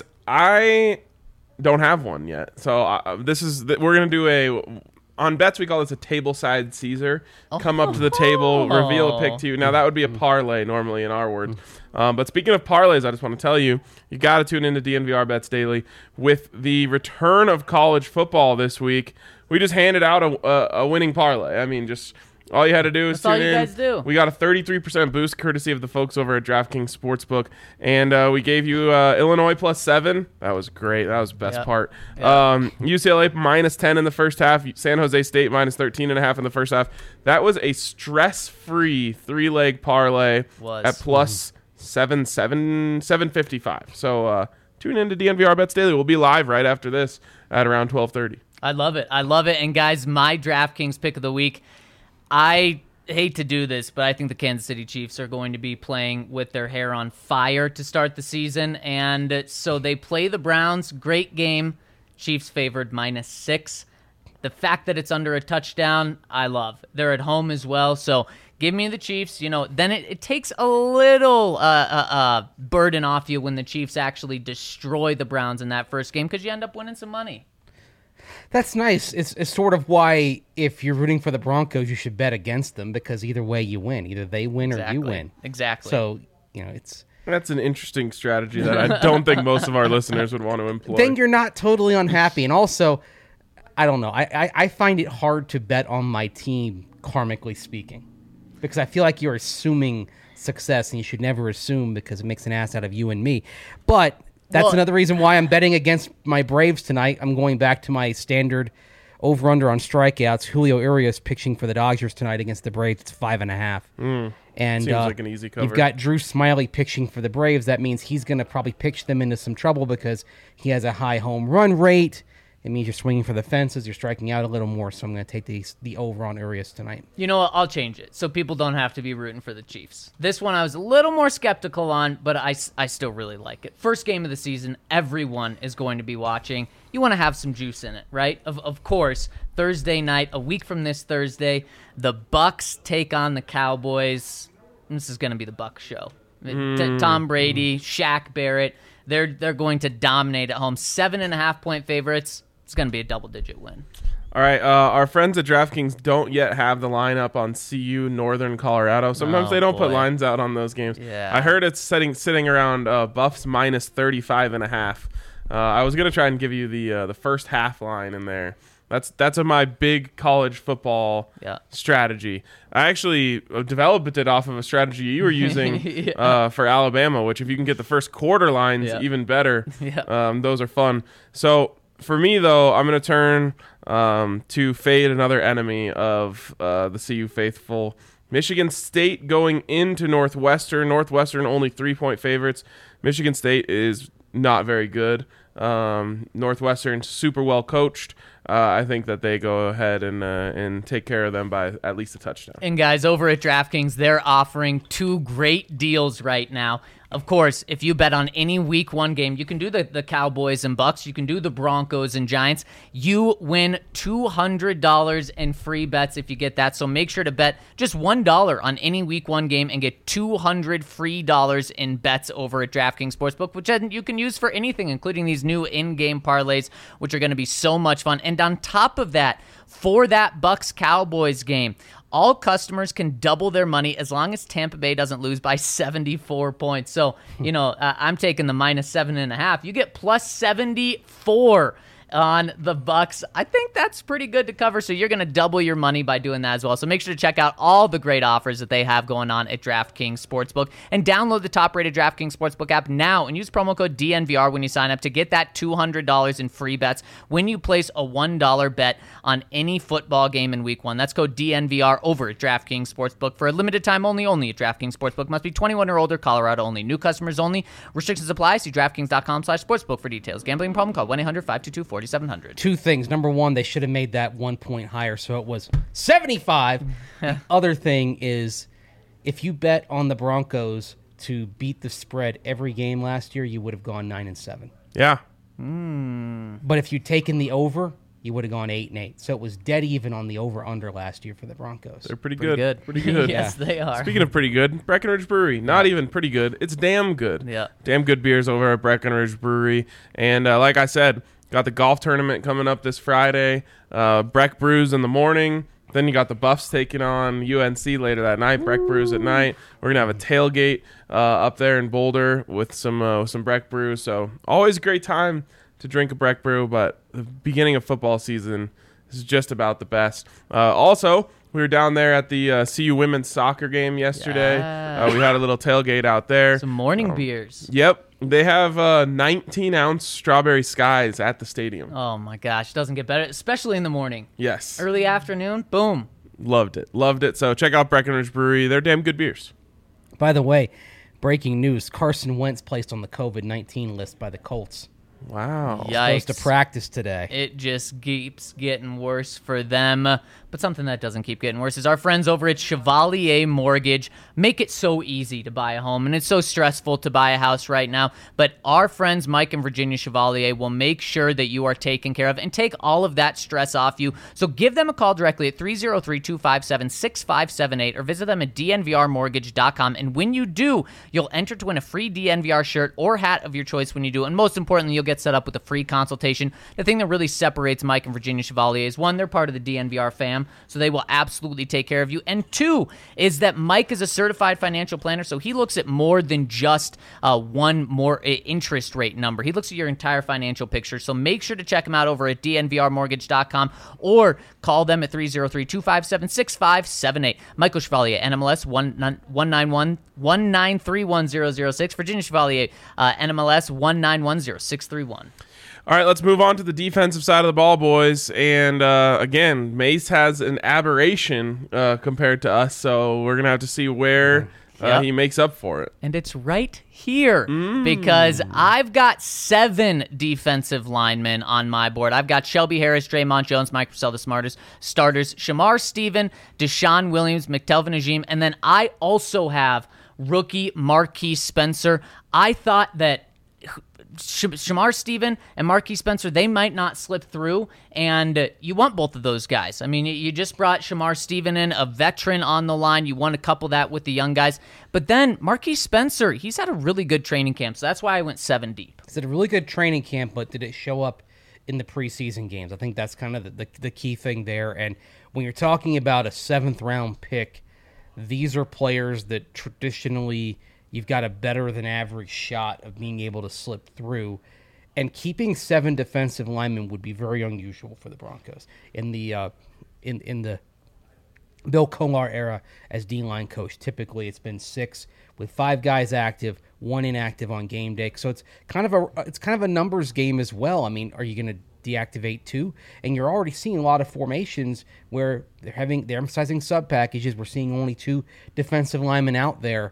I don't have one yet, so uh, this is th- we're gonna do a on bets. We call this a table side Caesar. Come up to the table, reveal a pick to you. Now that would be a parlay normally in our words. Um, but speaking of parlays, I just want to tell you, you got to tune into D N V R Bets Daily with the return of college football this week. We just handed out a, a, a winning parlay. I mean, just all you had to do is That's all tune you in. guys do. We got a thirty-three percent boost courtesy of the folks over at DraftKings Sportsbook, and uh, we gave you uh, Illinois plus seven. That was great. That was the best Yeah. part. Um, U C L A minus ten in the first half. San Jose State minus thirteen and a half in the first half. That was a stress-free three-leg parlay Was. at plus seven seven seven fifty-five. So uh, tune in to D N V R Bets Daily. We'll be live right after this at around twelve thirty. I love it. I love it. And guys, my DraftKings pick of the week, I hate to do this, but I think the Kansas City Chiefs are going to be playing with their hair on fire to start the season. And so they play the Browns. Great game. Chiefs favored minus six. The fact that it's under a touchdown, I love. They're at home as well. So give me the Chiefs. You know, then it, it takes a little uh, uh, uh, burden off you when the Chiefs actually destroy the Browns in that first game because you end up winning some money. That's nice. It's, it's sort of why if you're rooting for the Broncos, you should bet against them because either way you win. Either they win Exactly. or you win. Exactly. So, you know, it's... That's an interesting strategy that I don't think most of our listeners would want to employ. Then you're not totally unhappy. And also, I don't know. I, I, I find it hard to bet on my team, karmically speaking, because I feel like you're assuming success, and you should never assume because it makes an ass out of you and me. But... That's Well, another reason why I'm betting against my Braves tonight. I'm going back to my standard over-under on strikeouts. Julio Urias pitching for the Dodgers tonight against the Braves. It's five and a half. Mm, and seems uh, like an easy cover. You've got Drew Smiley pitching for the Braves. That means he's going to probably pitch them into some trouble because he has a high home run rate. It means you're swinging for the fences. You're striking out a little more. So I'm going to take the, the over on Urias tonight. You know what? I'll change it so people don't have to be rooting for the Chiefs. This one I was a little more skeptical on, but I, I still really like it. First game of the season, everyone is going to be watching. You want to have some juice in it, right? Of, of course, Thursday night, a week from this Thursday, the Bucks take on the Cowboys. This is going to be the Bucks show. Mm. T- Tom Brady, Shaq Barrett, they're, they're going to dominate at home. Seven and a half point favorites. It's going to be a double-digit win. All right, uh, our friends at DraftKings don't yet have the lineup on C U Northern Colorado. Sometimes Oh, they don't put boy. lines out on those games. Yeah. I heard it's sitting sitting around uh, Buffs minus thirty-five and a half. Uh, I was gonna try and give you the uh, the first half line in there. That's that's a, my big college football Yeah. strategy. I actually uh, developed it off of a strategy you were using Yeah. uh, for Alabama, which if you can get the first quarter lines, Yeah. even better. Yeah. Um, those are fun. So for me, though, I'm going to turn um, to fade another enemy of uh, the C U faithful. Michigan State going into Northwestern. Northwestern only three-point favorites. Michigan State is not very good. Um, Northwestern super well coached. Uh, I think that they go ahead and uh, and take care of them by at least a touchdown. And guys, over at DraftKings, they're offering two great deals right now. Of course, if you bet on any week one game, you can do the, the Cowboys and Bucks. You can do the Broncos and Giants. You win two hundred dollars in free bets if you get that. So make sure to bet just one dollar on any week one game and get two hundred free dollars in bets over at DraftKings Sportsbook, which you can use for anything, including these new in-game parlays, which are going to be so much fun. And on top of that, for that Bucks-Cowboys game, all customers can double their money as long as Tampa Bay doesn't lose by seventy-four points. So, you know, uh, I'm taking the minus seven and a half. You get plus seventy-four on the Bucks. I think that's pretty good to cover. So you're going to double your money by doing that as well. So make sure to check out all the great offers that they have going on at DraftKings Sportsbook and download the top-rated DraftKings Sportsbook app now and use promo code D N V R when you sign up to get that two hundred dollars in free bets when you place a one dollar bet on any football game in week one. That's code D N V R over at DraftKings Sportsbook for a limited time only. Only at DraftKings Sportsbook. Must be twenty-one or older. Colorado only. New customers only. Restrictions apply. See DraftKings.com slash sportsbook for details. Gambling problem? Call one eight hundred five two two four seven zero zero. Two things. Number one, they should have made that one point higher, so it was seventy-five. The other thing is, if you bet on the Broncos to beat the spread every game last year, you would have gone nine and seven. Yeah. But if you'd taken the over, you would have gone eight and eight. So it was dead even on the over/under last year for the Broncos. They're pretty, Pretty good. good. Pretty good. Yes, they are. Speaking of pretty good, Breckenridge Brewery. Not even pretty good. It's damn good. Yeah. Damn good beers over at Breckenridge Brewery. And uh, like I said, got the golf tournament coming up this Friday. Uh, Breck Brews in the morning. Then you got the Buffs taking on U N C later that night. Breck Brews at night. We're gonna have a tailgate uh, up there in Boulder with some uh, with some Breck Brews. So always a great time to drink a Breck Brew. But the beginning of football season is just about the best. Uh, also, we were down there at the uh, C U women's soccer game yesterday. Yeah. Uh, we had a little tailgate out there. Some morning Um, beers. Yep. They have uh, nineteen ounce strawberry skies at the stadium. Oh my gosh, doesn't get better, especially in the morning. Yes. Early afternoon, boom. Loved it. Loved it. So check out Breckenridge Brewery. They're damn good beers. By the way, breaking news: Carson Wentz placed on the COVID nineteen list by the Colts. Wow. Yikes. Supposed to practice today. It just keeps getting worse for them. But something that doesn't keep getting worse is our friends over at Chevalier Mortgage make it so easy to buy a home, and it's so stressful to buy a house right now. But our friends Mike and Virginia Chevalier will make sure that you are taken care of and take all of that stress off you. So give them a call directly at three oh three, two five seven, six five seven eight or visit them at d n v r mortgage dot com. And when you do, you'll enter to win a free D N V R shirt or hat of your choice when you do. And most importantly, you'll get set up with a free consultation. The thing that really separates Mike and Virginia Chevalier is, one, they're part of the D N V R fam, so they will absolutely take care of you. And two, is that Mike is a certified financial planner, so he looks at more than just uh, one more uh, interest rate number. He looks at your entire financial picture. So make sure to check him out over at d n v r mortgage dot com or call them at three oh three, two five seven, six five seven eight. Michael Chevalier, N M L S one nine one, one nine three one zero zero six. Virginia Chevalier, uh, N M L S one nine one zero six three one. All right, let's move on to the defensive side of the ball, boys. And uh, again, Mace has an aberration uh, compared to us, so we're going to have to see where uh, Yep. he makes up for it. And it's right here because I've got seven defensive linemen on my board. I've got Shelby Harris, Draymond Jones, Mike Purcell, the smartest starters, Shamar Stephen, Deshaun Williams, McTelvin Najim, and then I also have rookie Marquise Spencer. I thought that Sh- Shamar Stephen and Marquise Spencer, they might not slip through, and uh, you want both of those guys. I mean, you, you just brought Shamar Stephen in, a veteran on the line. You want to couple that with the young guys. But then Marquise Spencer, he's had a really good training camp, so that's why I went seven deep. It's a really good training camp, but did it show up in the preseason games? I think that's kind of the, the, the key thing there. And when you're talking about a seventh round pick, these are players that traditionally you've got a better than average shot of being able to slip through. And keeping seven defensive linemen would be very unusual for the Broncos. In the uh, in in the Bill Kolar era as D-line coach, typically it's been six with five guys active, one inactive on game day. So it's kind of a it's kind of a numbers game as well. I mean, are you going to deactivate two? And you're already seeing a lot of formations where they're having they're emphasizing sub packages. We're seeing only two defensive linemen out there.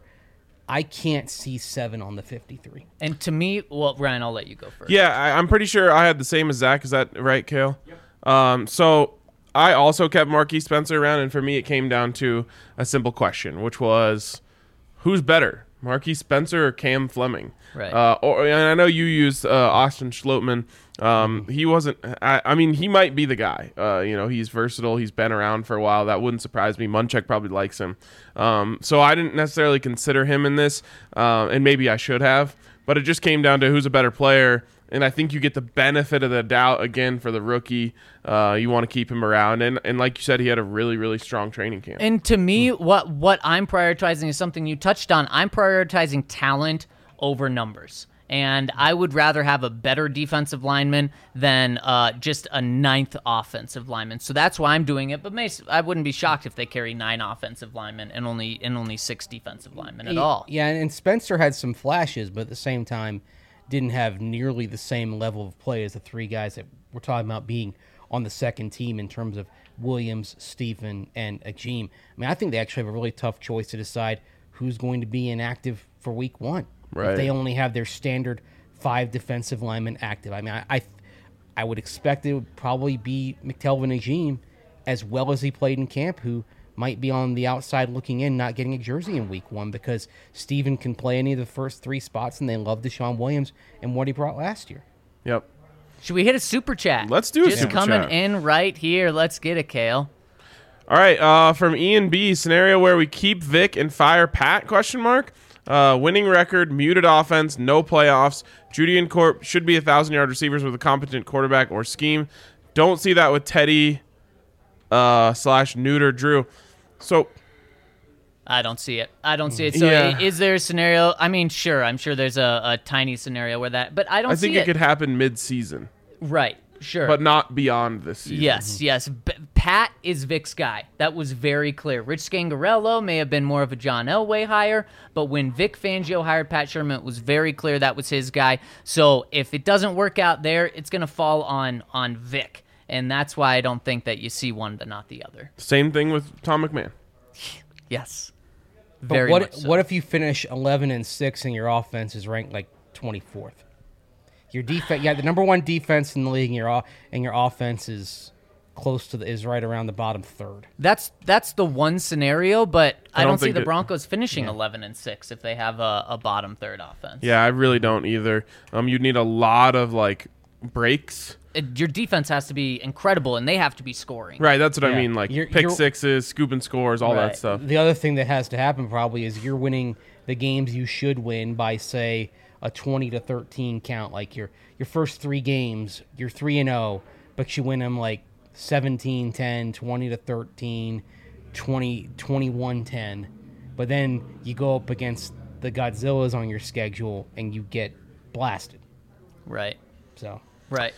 I can't see seven on the fifty-three. And to me, well, Ryan, I'll let you go first. Yeah, I, I'm pretty sure I had the same as Zach. Is that right, Kale? Yep. Um, so I also kept Marquise Spencer around, and for me it came down to a simple question, which was, who's better, Marquise Spencer or Cam Fleming? Right. Uh, or, and I know you used uh, Austin Schlottman. Um, he wasn't. I, I mean, he might be the guy. Uh, you know, he's versatile. He's been around for a while. That wouldn't surprise me. Munchak probably likes him. Um, so I didn't necessarily consider him in this, uh, and maybe I should have. But it just came down to who's a better player. And I think you get the benefit of the doubt again for the rookie. Uh, you want to keep him around, and and like you said, he had a really really strong training camp. And to me, what what I'm prioritizing is something you touched on. I'm prioritizing talent over numbers. And I would rather have a better defensive lineman than uh, just a ninth offensive lineman. So that's why I'm doing it. But Mace, I wouldn't be shocked if they carry nine offensive linemen and only and only six defensive linemen at all. Yeah, and Spencer had some flashes, but at the same time, didn't have nearly the same level of play as the three guys that we're talking about being on the second team in terms of Williams, Stephen, and Ajim. I mean, I think they actually have a really tough choice to decide who's going to be inactive for week one. Right. If they only have their standard five defensive linemen active. I mean, I I, I would expect it would probably be McTelvin Ajim, as well as he played in camp, who might be on the outside looking in, not getting a jersey in week one because Stephen can play any of the first three spots, and they love Deshaun Williams and what he brought last year. Yep. Should we hit a super chat? Let's do a Just super coming chat. in right here. Let's get it, Kale. All right. Uh, from Ian B, scenario where we keep Vic and fire Pat? Question mark. Uh, winning record, muted offense, no playoffs. Judean Corp should be a thousand yard receivers with a competent quarterback or scheme. Don't see that with Teddy uh, slash Neuter Drew. So I don't see it. I don't see it. So Yeah. is there a scenario? I mean, sure. I'm sure there's a, a tiny scenario where that, but I don't I think see it could happen mid season, Right. Sure. but not beyond this season. Yes, yes. B- Pat is Vic's guy. That was very clear. Rich Scangarello may have been more of a John Elway hire, but when Vic Fangio hired Pat Sherman, it was very clear that was his guy. So if it doesn't work out there, it's going to fall on on Vic. And that's why I don't think that you see one but not the other. Same thing with Tom McMahon. Yes. But Very what much so. what if you finish eleven and six and your offense is ranked like twenty-fourth? Your defense, yeah, the number one defense in the league, and your o- and your offense is close to the is right around the bottom third. That's that's the one scenario, but I, I don't don't see think the it- Broncos finishing eleven and six if they have a, a bottom third offense. Yeah, I really don't either. Um, you'd need a lot of like breaks. It- your defense has to be incredible, and they have to be scoring. Right, that's what I Yeah. mean. Like You're- pick you're- sixes, scooping scores, all Right. that stuff. The other thing that has to happen probably is you're winning the games you should win by say a twenty to thirteen count. Like your your first three games, you're three and zero, but you win them like seventeen ten, twenty to thirteen, twenty, twenty-one ten. But then you go up against the Godzillas on your schedule and you get blasted. Right. So Right.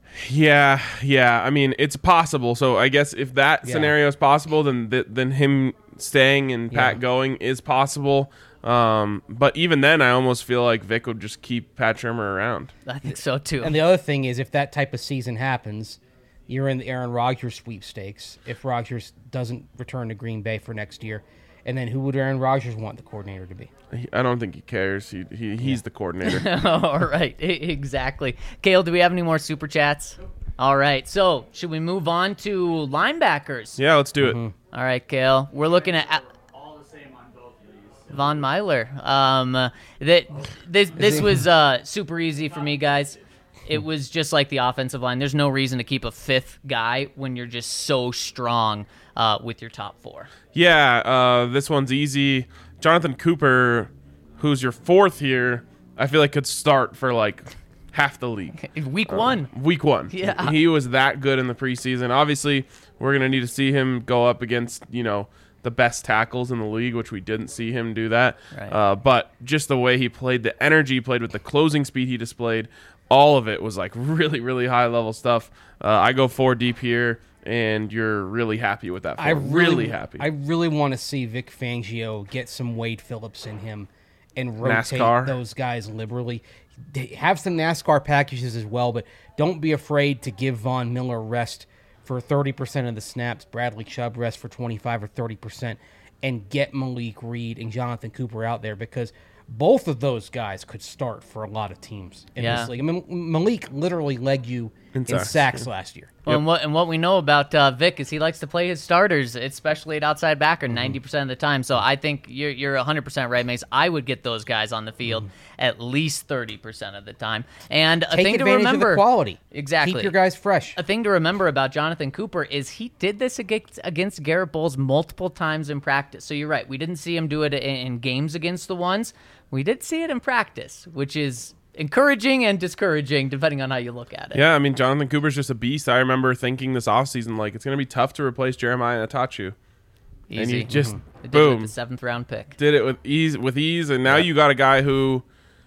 Yeah, yeah. I mean, it's possible. So I guess if that Yeah. scenario is possible, then th- then him staying and Pat Yeah. going is possible. Um, but even then, I almost feel like Vic would just keep Pat Shermer around. I think so too. And the other thing is, if that type of season happens, you're in the Aaron Rodgers sweepstakes. If Rodgers doesn't return to Green Bay for next year, and then who would Aaron Rodgers want the coordinator to be? He- I don't think he cares. He, he he's the coordinator. All right, e- exactly. Kale, do we have any more super chats? All right, so should we move on to linebackers? Yeah, let's do it. All right, Kale, we're looking at All the same on both of these. Von Myler. Um, uh, that this this was uh, super easy for me, guys. It was just like the offensive line. There's no reason to keep a fifth guy when you're just so strong uh, with your top four. Yeah, uh, this one's easy. Jonathan Cooper, who's your fourth here, I feel like could start for like half the league. Week one. Week one. Yeah. He was that good in the preseason. Obviously, we're going to need to see him go up against, you know, the best tackles in the league, which we didn't see him do that. Right. Uh, but just the way he played, the energy he played with, the closing speed he displayed, all of it was like really, really high level stuff. Uh, I go four deep here, and you're really happy with that. I four. really, really happy. I really want to see Vic Fangio get some Wade Phillips in him and rotate NASCAR. those guys liberally. They have some NASCAR packages as well, but don't be afraid to give Von Miller rest for thirty percent of the snaps, Bradley Chubb rest for twenty-five or thirty percent, and get Malik Reed and Jonathan Cooper out there, because both of those guys could start for a lot of teams in Yeah. this league. I mean, Malik literally led you in, In sacks, sacks last year. Well, and what and what we know about uh, Vic is he likes to play his starters, especially at outside backer, ninety percent of the time. So I think you're you're one hundred percent right, Mace. I would get those guys on the field at least thirty percent of the time. And a Take thing to advantage remember, of the quality. Exactly. Keep your guys fresh. A thing to remember about Jonathan Cooper is he did this against, against Garrett Bowles multiple times in practice. So you're right. We didn't see him do it in, in games against the ones. We did see it in practice, which is encouraging and discouraging depending on how you look at it. Yeah, I mean, Jonathan Cooper's just a beast. I remember thinking this offseason, like, it's going to be tough to replace Jeremiah Atachu. Easy. And you just, It did boom, with the seventh round pick. did it with ease, with ease, and now you got a guy who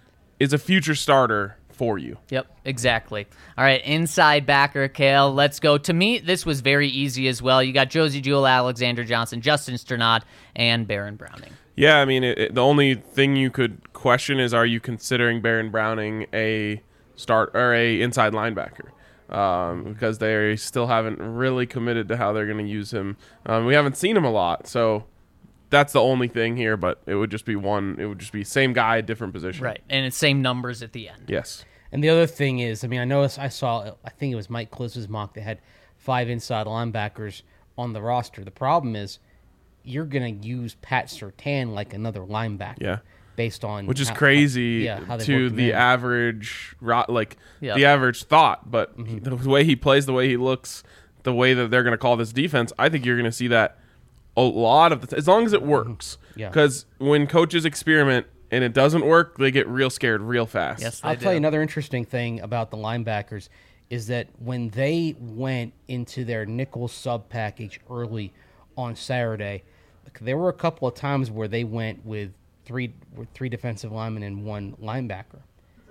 is a future starter for you. Yep, exactly. All right, inside backer, Kale. Let's go. To me, this was very easy as well. You got Josie Jewell, Alexander Johnson, Justin Sternad, and Baron Browning. Yeah, I mean, it, it- the only thing you could question is, are you considering Baron Browning a start or a inside linebacker? Um, because they still haven't really committed to how they're going to use him. Um, we haven't seen him a lot, so that's the only thing here. But it would just be one. It would just be same guy, different position. Right, and it's same numbers at the end. Yes. And the other thing is, I mean, I noticed I saw, I think it was Mike Klis's mock that had five inside linebackers on the roster. The problem is you're going to use Pat Surtain like another linebacker. Yeah. Based on Which is how- crazy how- yeah, how they to worked him the in. average, ro- like Yeah. the average thought. But Mm-hmm. he- the way he plays, the way he looks, the way that they're going to call this defense, I think you're going to see that a lot of the t- as long as it works. Mm-hmm. Yeah. Because when coaches experiment and it doesn't work, they get real scared real fast. Yes, I'll they tell do. you another interesting thing about the linebackers is that when they went into their nickel sub package early on Saturday, there were a couple of times where they went with three with three defensive linemen and one linebacker.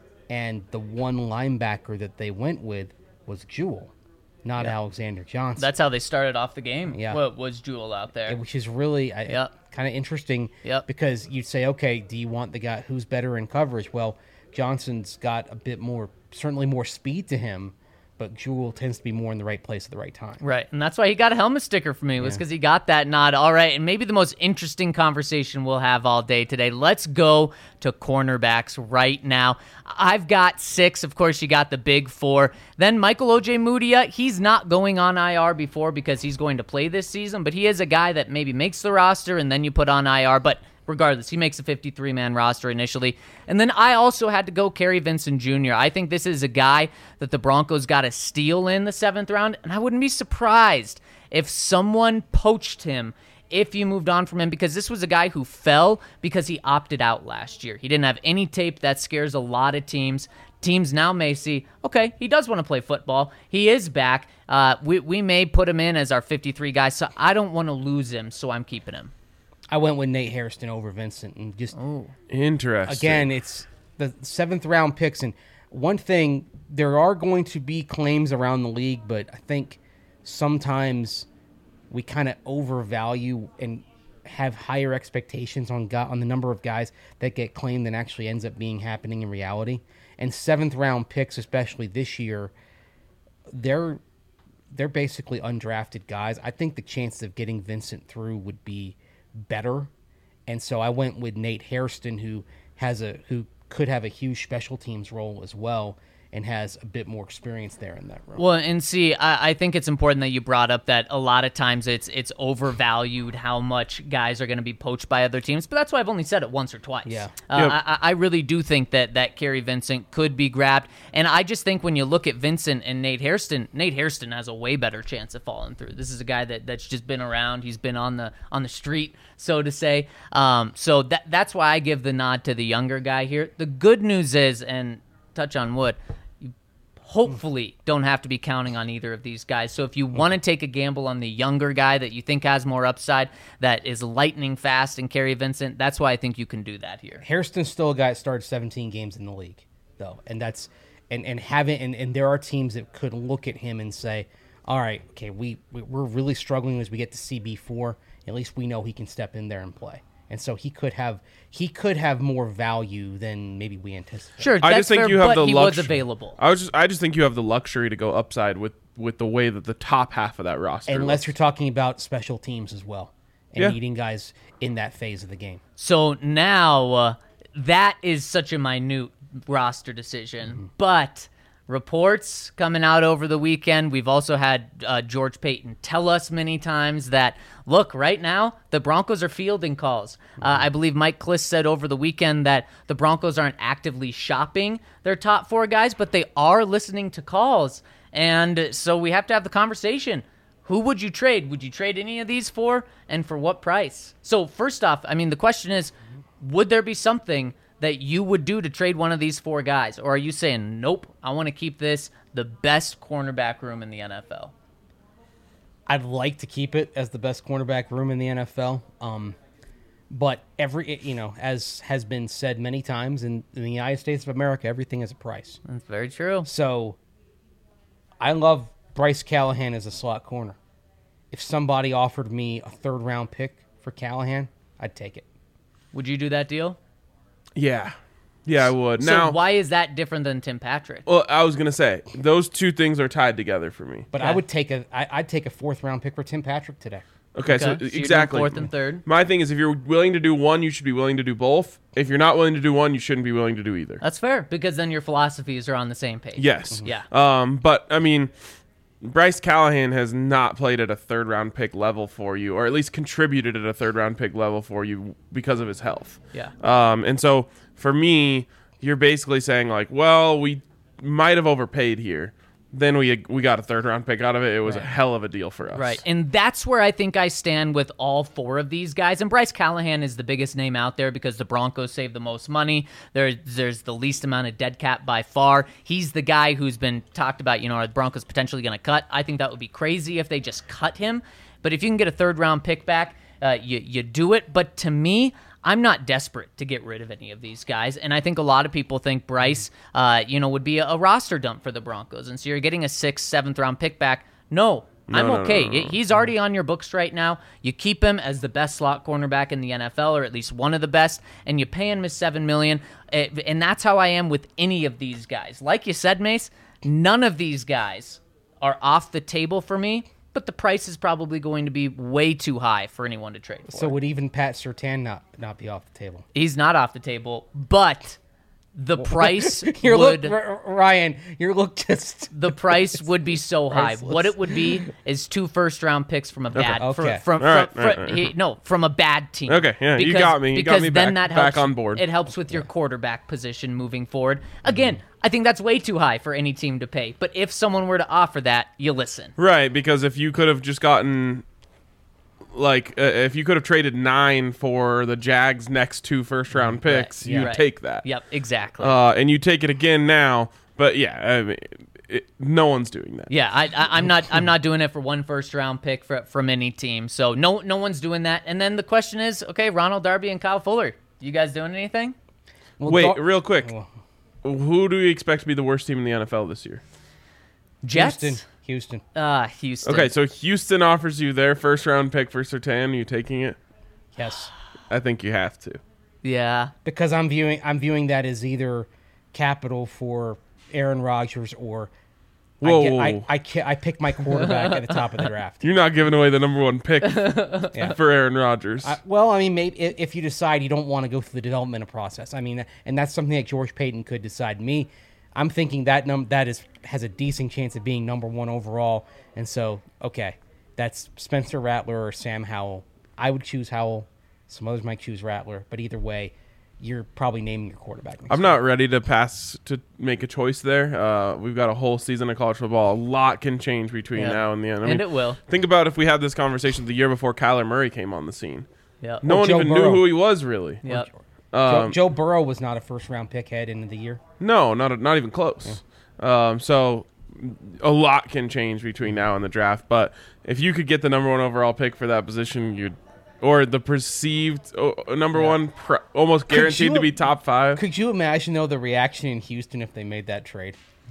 And the one linebacker that they went with was Jewell, not Alexander Johnson. That's how they started off the game. Yeah. What was Jewell out there? which is really I, Yep. kind of interesting Yep. because you'd say, okay, do you want the guy who's better in coverage? Well, Johnson's got a bit more, certainly more speed to him, but Jewell tends to be more in the right place at the right time. Right, and that's why he got a helmet sticker for me, was because he got that nod. All right, and maybe the most interesting conversation we'll have all day today. Let's go to cornerbacks right now. I've got six. Of course, you got the big four. Then Michael Ojemudia, he's not going on I R before because he's going to play this season, but he is a guy that maybe makes the roster and then you put on I R, but regardless, he makes a fifty-three man roster initially. And then I also had to go Kerry Vincent Junior I think this is a guy that the Broncos got a steal in the seventh round, and I wouldn't be surprised if someone poached him if you moved on from him, because this was a guy who fell because he opted out last year. He didn't have any tape. That scares a lot of teams. Teams now may see, okay, he does want to play football. He is back. Uh, we, we may put him in as our fifty-three guy, so I don't want to lose him, so I'm keeping him. I went with Nate Hairston over Vincent, and just Interesting. again, it's the seventh round picks. And one thing, there are going to be claims around the league, but I think sometimes we kind of overvalue and have higher expectations on go- on the number of guys that get claimed than actually ends up being happening in reality. And seventh round picks, especially this year, they're they're basically undrafted guys. I think the chances of getting Vincent through would be better, and so I went with Nate Hairston, who has a who could have a huge special teams role as well, and has a bit more experience there in that role. Well, and see, I, I think it's important that you brought up that a lot of times it's it's overvalued how much guys are going to be poached by other teams, but that's why I've only said it once or twice. Yeah. Uh, Yep. I, I really do think that that Kerry Vincent could be grabbed, and I just think when you look at Vincent and Nate Hairston, Nate Hairston has a way better chance of falling through. This is a guy that, that's just been around. He's been on the on the street, so to say. Um, so that that's why I give the nod to the younger guy here. The good news is, and touch on wood, hopefully don't have to be counting on either of these guys. So if you want to take a gamble on the younger guy that you think has more upside, that is lightning fast and Kerry Vincent, that's why I think you can do that here. Hairston's still a guy that started seventeen games in the league, though, and that's and and having and, and there are teams that could look at him and say, all right, okay, we, we we're really struggling as we get to C B four. At least we know he can step in there and play. And so he could have he could have more value than maybe we anticipate. Sure, I that's just think fair, you have but the he luxury. was available. I was just, I just think you have the luxury to go upside with, with the way that the top half of that roster. Unless looks. you're talking about special teams as well and Yeah. needing guys in that phase of the game. So now uh, that is such a minute roster decision, Mm-hmm. but reports coming out over the weekend. We've also had uh, George Payton tell us many times that, look, right now, the Broncos are fielding calls. Uh, I believe Mike Kliss said over the weekend that the Broncos aren't actively shopping their top four guys, but they are listening to calls. And so we have to have the conversation. Who would you trade? Would you trade any of these for, and for what price? So first off, I mean, the question is, would there be something that you would do to trade one of these four guys? Or are you saying, nope, I want to keep this the best cornerback room in the N F L? I'd like to keep it as the best cornerback room in the N F L. Um, but every, you know, as has been said many times in, in the United States of America, everything has a price. That's very true. So I love Bryce Callahan as a slot corner. If somebody offered me a third round pick for Callahan, I'd take it. Would you do that deal? Yeah. Yeah, I would. So Now, why is that different than Tim Patrick? well, I was going to say, those two things are tied together for me. But Okay. I would take a I, I'd take a fourth round pick for Tim Patrick today. Okay, Okay, so so you're doing exactly. fourth and third? My thing is, if you're willing to do one, you should be willing to do both. If you're not willing to do one, you shouldn't be willing to do either. That's fair, because then your philosophies are on the same page. Yes. Yeah. Um, but, I mean, Bryce Callahan has not played at a third round pick level for you, or at least contributed at a third round pick level for you because of his health. Yeah. Um, and so for me, you're basically saying like, well, we might have overpaid here. Then we we got a third round pick out of it. It was a hell of a deal for us. Right, and that's where I think I stand with all four of these guys. And Bryce Callahan is the biggest name out there because the Broncos save the most money. There, there's the least amount of dead cap by far. He's the guy who's been talked about, you know, are the Broncos potentially going to cut? I think that would be crazy if they just cut him. But if you can get a third round pick back, uh, you, you do it. But to me, I'm not desperate to get rid of any of these guys, and I think a lot of people think Bryce, uh, you know, would be a, a roster dump for the Broncos, and so you're getting a sixth, seventh round pick back. No, I'm no, no, okay. no, no, no. He's already on your books right now. You keep him as the best slot cornerback in the N F L, or at least one of the best, and you pay him his seven million. dollars, and that's how I am with any of these guys. Like you said, Mace, None of these guys are off the table for me, but the price is probably going to be way too high for anyone to trade for. So would even Pat Surtain not not be off the table? He's not off the table, but the price Your would look, R- Ryan. Your look just. the price would be so high. Priceless. What it would be is two first round picks from a bad Okay. fr- Okay. from, All right, from, all right, from- all right. he- no from a bad team. Okay, yeah, you got me. You got because me then back- that back helps, on board. It helps with your quarterback position moving forward. Again, I think that's way too high for any team to pay. But if someone were to offer that, you listen. Right, because if you could have just gotten, like, uh, if you could have traded nine for the Jags' next two first-round picks, Yeah, you'd right. take that. Yep, exactly. Uh, and you take it again now. But yeah, I mean, it, no one's doing that. Yeah, I, I, I'm not. I'm not doing it for one first round pick for, from any team. So no, no one's doing that. And then the question is, okay, Ronald Darby and Kyle Fuller, you guys doing anything? Well, Wait, Dar- real quick. Well, Who do you expect to be the worst team in the N F L this year? Jets. Houston. Houston. Ah, Houston. Okay, so Houston offers you their first-round pick for Surtain. Are you taking it? Yes. I think you have to. Yeah. Because I'm viewing I'm viewing that as either capital for Aaron Rodgers or Whoa, I, get, whoa, I, whoa. I, ca- I pick my quarterback at the top of the draft. You're not giving away the number one pick for Aaron Rodgers. I, well, I mean, maybe i- if you decide you don't want to go through the development process, I mean, and that's something that George Payton could decide. Me, I'm thinking that num that is has a decent chance of being number one overall, and so okay, that's Spencer Rattler or Sam Howell. I would choose Howell. Some others might choose Rattler, but either way, you're probably naming your quarterback. next I'm year. not ready to pass to make a choice there. Uh, we've got a whole season of college football. A lot can change between Yeah. now and the end. I And mean, it will. think about if we had this conversation the year before Kyler Murray came on the scene. Yeah. No Or one Joe even Burrow. knew who he was really. Yep. Joe, Um, Joe Burrow was not a first round pick head into the year. No, not not even close. Um, so a lot can change between now and the draft. But if you could get the number one overall pick for that position, you'd or the perceived oh, number one, pr- almost guaranteed you- to be top five. Could you imagine though the reaction in Houston if they made that trade?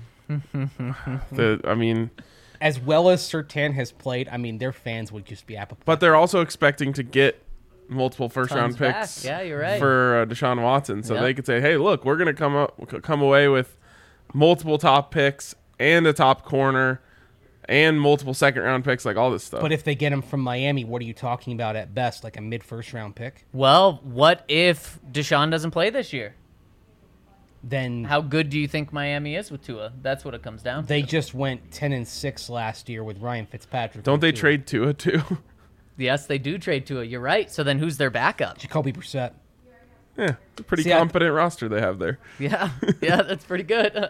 The, I mean, As well as Surtain has played, I mean, their fans would just be apoplectic. but they're also expecting to get multiple first round Tons back. picks. Yeah, you're right. For uh, Deshaun Watson, so Yep. they could say, "Hey, look, we're gonna come up, come away with multiple top picks and a top corner." And multiple second round picks, like all this stuff. But if they get him from Miami, what are you talking about at best? Like a mid first round pick? Well, what if Deshaun doesn't play this year? Then How good do you think Miami is with Tua? That's what it comes down to. they just went ten and six last year with Ryan Fitzpatrick. Don't they too. trade Tua too? Yes, they do trade Tua. You're right. So then who's their backup? Jacoby Brissett? Yeah, a pretty See, I- competent roster they have there. Yeah, yeah, that's pretty good.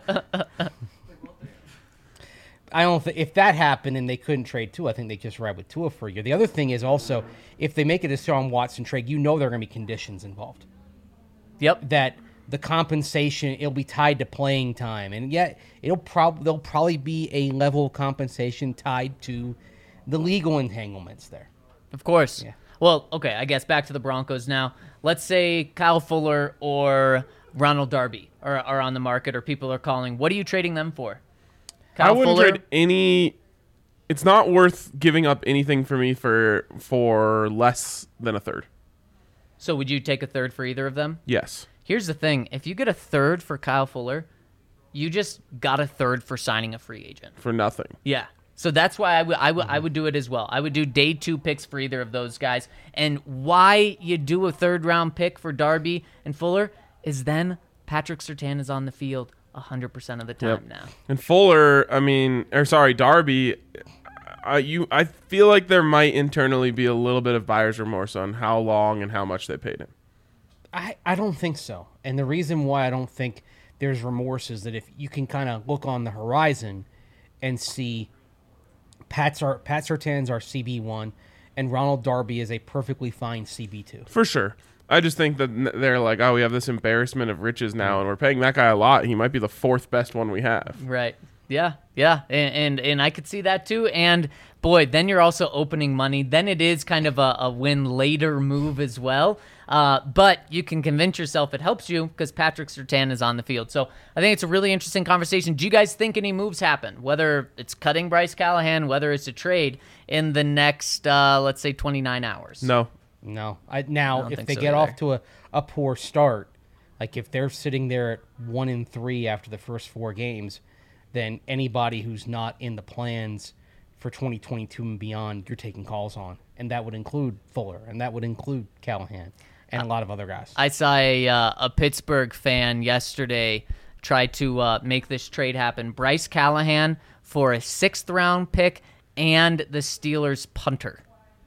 I don't think if that happened and they couldn't trade Tua, I think they just ride with Tua for a year. The other thing is also if they make a Deshaun Watson trade, you know there are going to be conditions involved. Yep. That the compensation it'll be tied to playing time, and yet it'll probably there'll probably be a level of compensation tied to the legal entanglements there. Of course. Yeah. Well, okay, I guess back to the Broncos now. Let's say Kyle Fuller or Ronald Darby are, are on the market or people are calling. What are you trading them for? Kyle I wouldn't Fuller, trade any. It's not worth giving up anything for me for for less than a third. So would you take a third for either of them? Yes. Here's the thing. If you get a third for Kyle Fuller, you just got a third for signing a free agent. For nothing. Yeah. So that's why I would I would I would do it as well. I would do day two picks for either of those guys. And why you do a third round pick for Darby and Fuller is then Patrick Surtain is on the field one hundred percent of the time Yep. now. And Fuller, I mean, or sorry, Darby. Uh, you, I feel like there might internally be a little bit of buyer's remorse on how long and how much they paid him. I, I don't think so. And the reason why I don't think there's remorse is that if you can kind of look on the horizon and see Pat's our, Pat Surtain's our C B one and Ronald Darby is a perfectly fine C B two. For sure. I just think that n- they're like, oh, we have this embarrassment of riches now, and we're paying that guy a lot. He might be the fourth best one we have. Right. Yeah. Yeah. And, and and I could see that too. And boy, then you're also opening money. Then it is kind of a, a win later move as well. Uh, but you can convince yourself it helps you because Patrick Surtain is on the field. So I think it's a really interesting conversation. Do you guys think any moves happen? Whether it's cutting Bryce Callahan, whether it's a trade in the next, uh, let's say, twenty-nine hours? No. No. I, now, don't if think they so get either. off to a, a poor start, like if they're sitting there at one and three after the first four games, then anybody who's not in the plans for twenty twenty-two and beyond, you're taking calls on. And that would include Fuller, and that would include Callahan, and a lot of other guys. I saw a, uh, a Pittsburgh fan yesterday try to uh, make this trade happen. Bryce Callahan for a sixth round pick and the Steelers punter.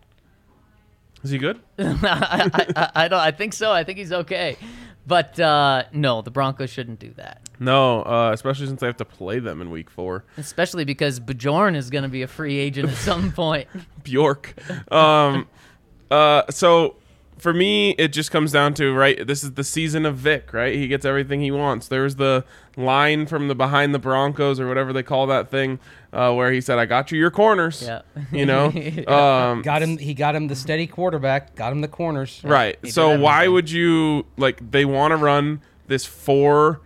Is he good? I, I, I don't. I think so. I think he's okay. But uh, no, the Broncos shouldn't do that. No, uh, especially since they have to play them in week four. Especially because Bjorn is going to be a free agent at some point. Bjork. Um, uh, so for me, it just comes down to, right, this is the season of Vic, right? He gets everything he wants. There was the line from the behind the Broncos or whatever they call that thing uh, where he said, I got you your corners. Yeah. You know? um, Got him. He got him the steady quarterback. Got him the corners. right. He did So why everything. would you, like, they want to run this four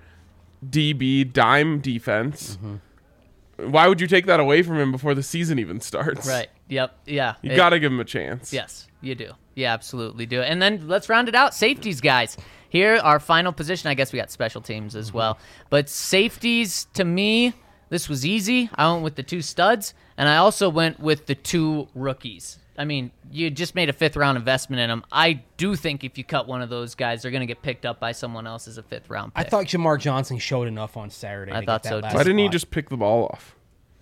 D B dime defense. Mm-hmm. Why would you take that away from him before the season even starts? Right. Yep. Yeah. You It- got to give him a chance. Yes, you do. You absolutely do. And then let's round it out. Safeties, guys. Here, our final position. I guess we got special teams as well. But safeties, to me, this was easy. I went with the two studs, and I also went with the two rookies. I mean, you just made a fifth-round investment in them. I do think if you cut one of those guys, they're going to get picked up by someone else as a fifth-round pick. I thought Jamar Johnson showed enough on Saturday. I to thought get so, that too. Why didn't he spot. just pick the ball off?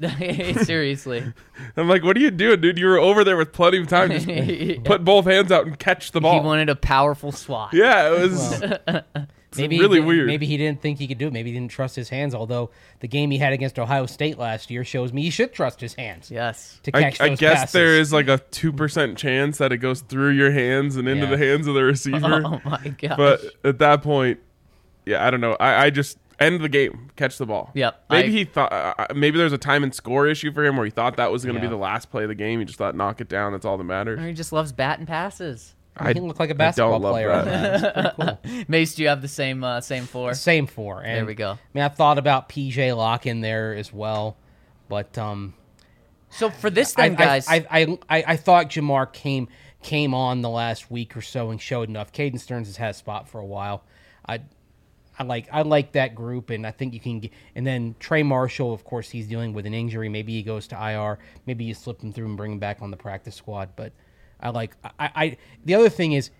Seriously. I'm like, what are you doing, dude? You were over there with plenty of time. Just put both hands out and catch the He ball. wanted a powerful swat. Yeah, it was it's Maybe really he, weird. Maybe he didn't think he could do it. Maybe he didn't trust his hands. Although the game he had against Ohio State last year shows me he should trust his hands Yes. to I, catch I those guess passes. there is like a two percent chance that it goes through your hands and into Yeah. the hands of the receiver. Oh, my gosh. But at that point, yeah, I don't know. I, I just end the game, catch the ball. Yep, Maybe I- he thought. Uh, maybe there's a time and score issue for him where he thought that was going to Yeah. be the last play of the game. He just thought, knock it down. That's all that matters. Or he just loves batting passes. He can look like a I basketball don't love player. that. On that. It's pretty cool. Mace, do you have the same uh, same four? Same four. And, There we go. I mean, I thought about P J Locke in there as well, but um, So for this I, then, guys, I, I, I, I thought Jamar came came on the last week or so and showed enough. Caden Stearns has had a spot for a while. I, I like I like that group, and I think you can get. And then Trey Marshall, of course, he's dealing with an injury. Maybe he goes to I R. Maybe you slip him through and bring him back on the practice squad. But I like I, I the other thing is.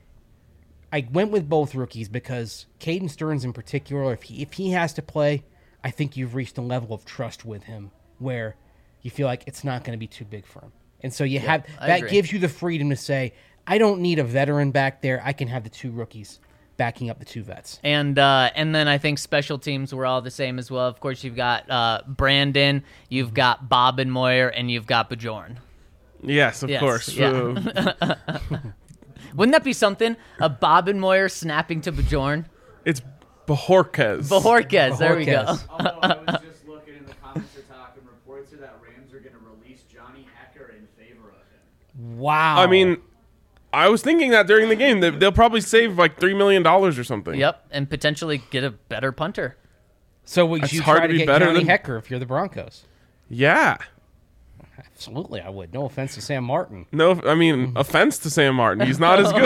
I went with both rookies because Caden Stearns in particular, if he if he has to play, I think you've reached a level of trust with him where you feel like it's not going to be too big for him. And so you have I that agree. gives you the freedom to say, I don't need a veteran back there. I can have the two rookies backing up the two vets. and uh, and then I think special teams were all the same as well. Of course, you've got uh, Brandon, you've got Bob and Moyer, and you've got Bjorn. Yes, of Yes, course. yeah. Uh, Wouldn't that be something? A Bob and Moyer snapping to Bjorn? it's Bajorquez. Bajorquez, there we go. Bajorquez. Although I was just looking in the comments are talking reports are that Rams are going to release Johnny Hecker in favor of him. Wow. I mean, I was thinking that during the game. They, they'll probably save like three million dollars or something. Yep, and potentially get a better punter. so would It's you hard try to to be get better Johnny than- Hecker if you're the Broncos? Yeah. Absolutely, I would. No offense to Sam Martin. No, I mean, offense to Sam Martin. He's not as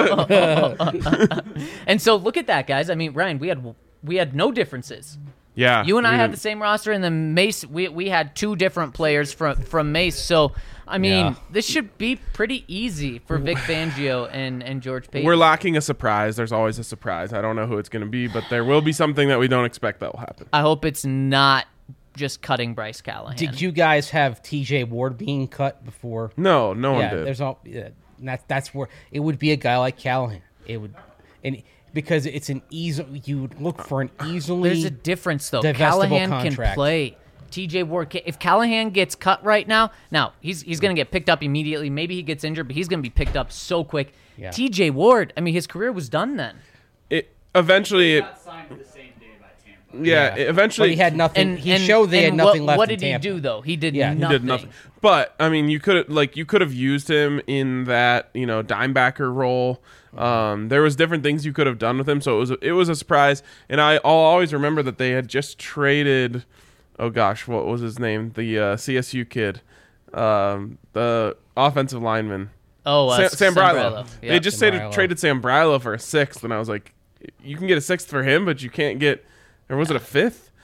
good. And so look at that, guys. I mean, Ryan, we had we had no differences. Yeah. You and I we had didn't- the same roster, and then Mace, we we had two different players from from Mace. So, I mean, Yeah. this should be pretty easy for Vic Fangio and, and George Payton. We're lacking a surprise. There's always a surprise. I don't know who it's going to be, but there will be something that we don't expect that will happen. I hope it's not just cutting Bryce Callahan. Did you guys have T J Ward being cut before? No, no one Yeah, did. there's all. Yeah, and that's that's where it would be a guy like Callahan. It would, and because it's an easy, you would look for an easily. There's a difference, though. divestible Callahan can contract. play. T J Ward, ca- if Callahan gets cut right now, now he's he's going to get picked up immediately. Maybe he gets injured, but he's going to be picked up so quick. Yeah. T J Ward, I mean, his career was done then. It eventually. He It, got signed for the same day by Tampa. yeah, it eventually. But he had nothing. And he and, showed they had and nothing what, left. What in did he Tampa. do though? He did Yeah, he nothing. He did nothing. But I mean, you could like you could have used him in that you know dime backer role. Um, there was different things you could have done with him, so it was it was a surprise. And I, I'll always remember that they had just traded. Oh gosh, what was his name? The uh, C S U kid, um, the offensive lineman, Oh, uh, Sam, Sam Brylo. Brylo. They Yep. just Sam traded, Brylo. traded Sam Brylo for a sixth, and I was like, you can get a sixth for him, but you can't get. Or was it a fifth?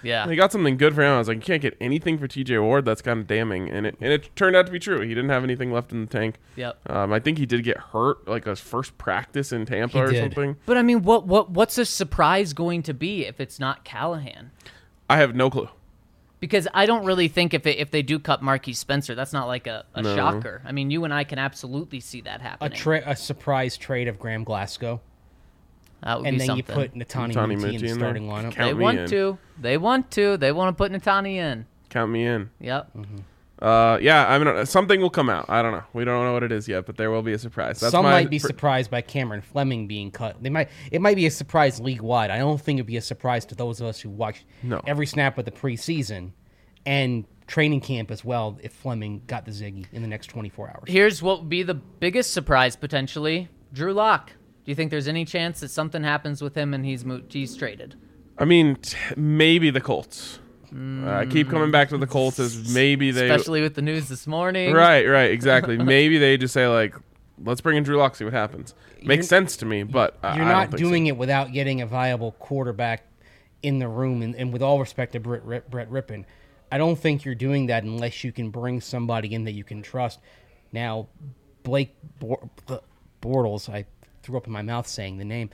Yeah. He got something good for him. I was like, you can't get anything for T J Ward. That's kind of damning. And it, and it turned out to be true. He didn't have anything left in the tank. Yep. Um, I think he did get hurt, like his first practice in Tampa He or did. something. But I mean, what what what's a surprise going to be if it's not Callahan? I have no clue. Because I don't really think if it, if they do cut Marquise Spencer, that's not like a, a No. shocker. I mean, you and I can absolutely see that A happening. tra- a surprise trade of Graham Glasgow, that would and be then something. you put Natani Natani Muti Muti in the in starting there. lineup. Count they me want in. to. They want to. They want to put Natani in. Count me in. Yep. Uh, yeah, I mean, something will come out. I don't know. We don't know what it is yet, but there will be a surprise. That's Some my, might be for- surprised by Cameron Fleming being cut. They might. It might be a surprise league wide. I don't think it'd be a surprise to those of us who watched No. every snap of the preseason and training camp as well. If Fleming got the Ziggy in the next twenty-four hours, Here's what would be the biggest surprise potentially: Drew Lock. Do you think there's any chance that something happens with him and he's mo- he's traded? I mean, t- maybe the Colts. Uh, I keep coming back to the Colts as maybe they. Especially with the news this morning. Right, right, exactly. Maybe they just say like, let's bring in Drew Lock, see what happens. Makes You're- sense to me, but I, you're I not don't think doing so. it without getting a viable quarterback in the room. And, and with all respect to Brett, Rip, Brett Rippon, I don't think you're doing that unless you can bring somebody in that you can trust. Now, Blake Bor- Bortles, I threw up in my mouth saying the name,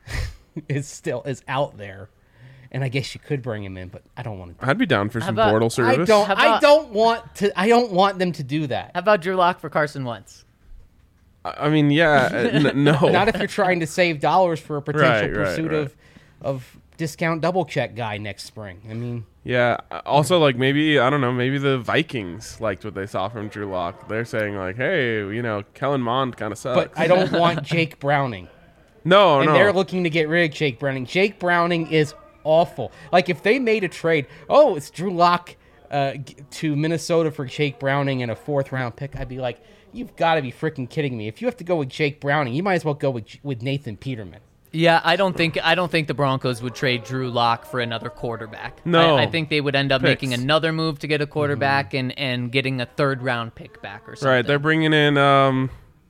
is still is out there, and I guess you could bring him in, but I don't want to. I'd be down for some about- Bortle service. I don't. How I about- don't want to. I don't want them to do that. How about Drew Lock for Carson Wentz? I mean, yeah, uh, n- no. Not if you're trying to save dollars for a potential Right, right, pursuit right. of of discount double check guy next spring. I mean, Yeah. Also, like maybe I don't know. Maybe the Vikings liked what they saw from Drew Lock. They're saying like, hey, you know, Kellen Mond kind of sucks. but I don't want Jake Browning. no, and no. they're looking to get rid of Jake Browning. Jake Browning is awful. Like if they made a trade, oh, it's Drew Lock uh, g- to Minnesota for Jake Browning and a fourth round pick, I'd be like, you've got to be freaking kidding me. If you have to go with Jake Browning, you might as well go with with Nathan Peterman. Yeah, I don't think I don't think the Broncos would trade Drew Lock for another quarterback. No. I, I think they would end up Picks. making another move to get a quarterback and, and getting a third round pick back or something. Right. They're bringing in um,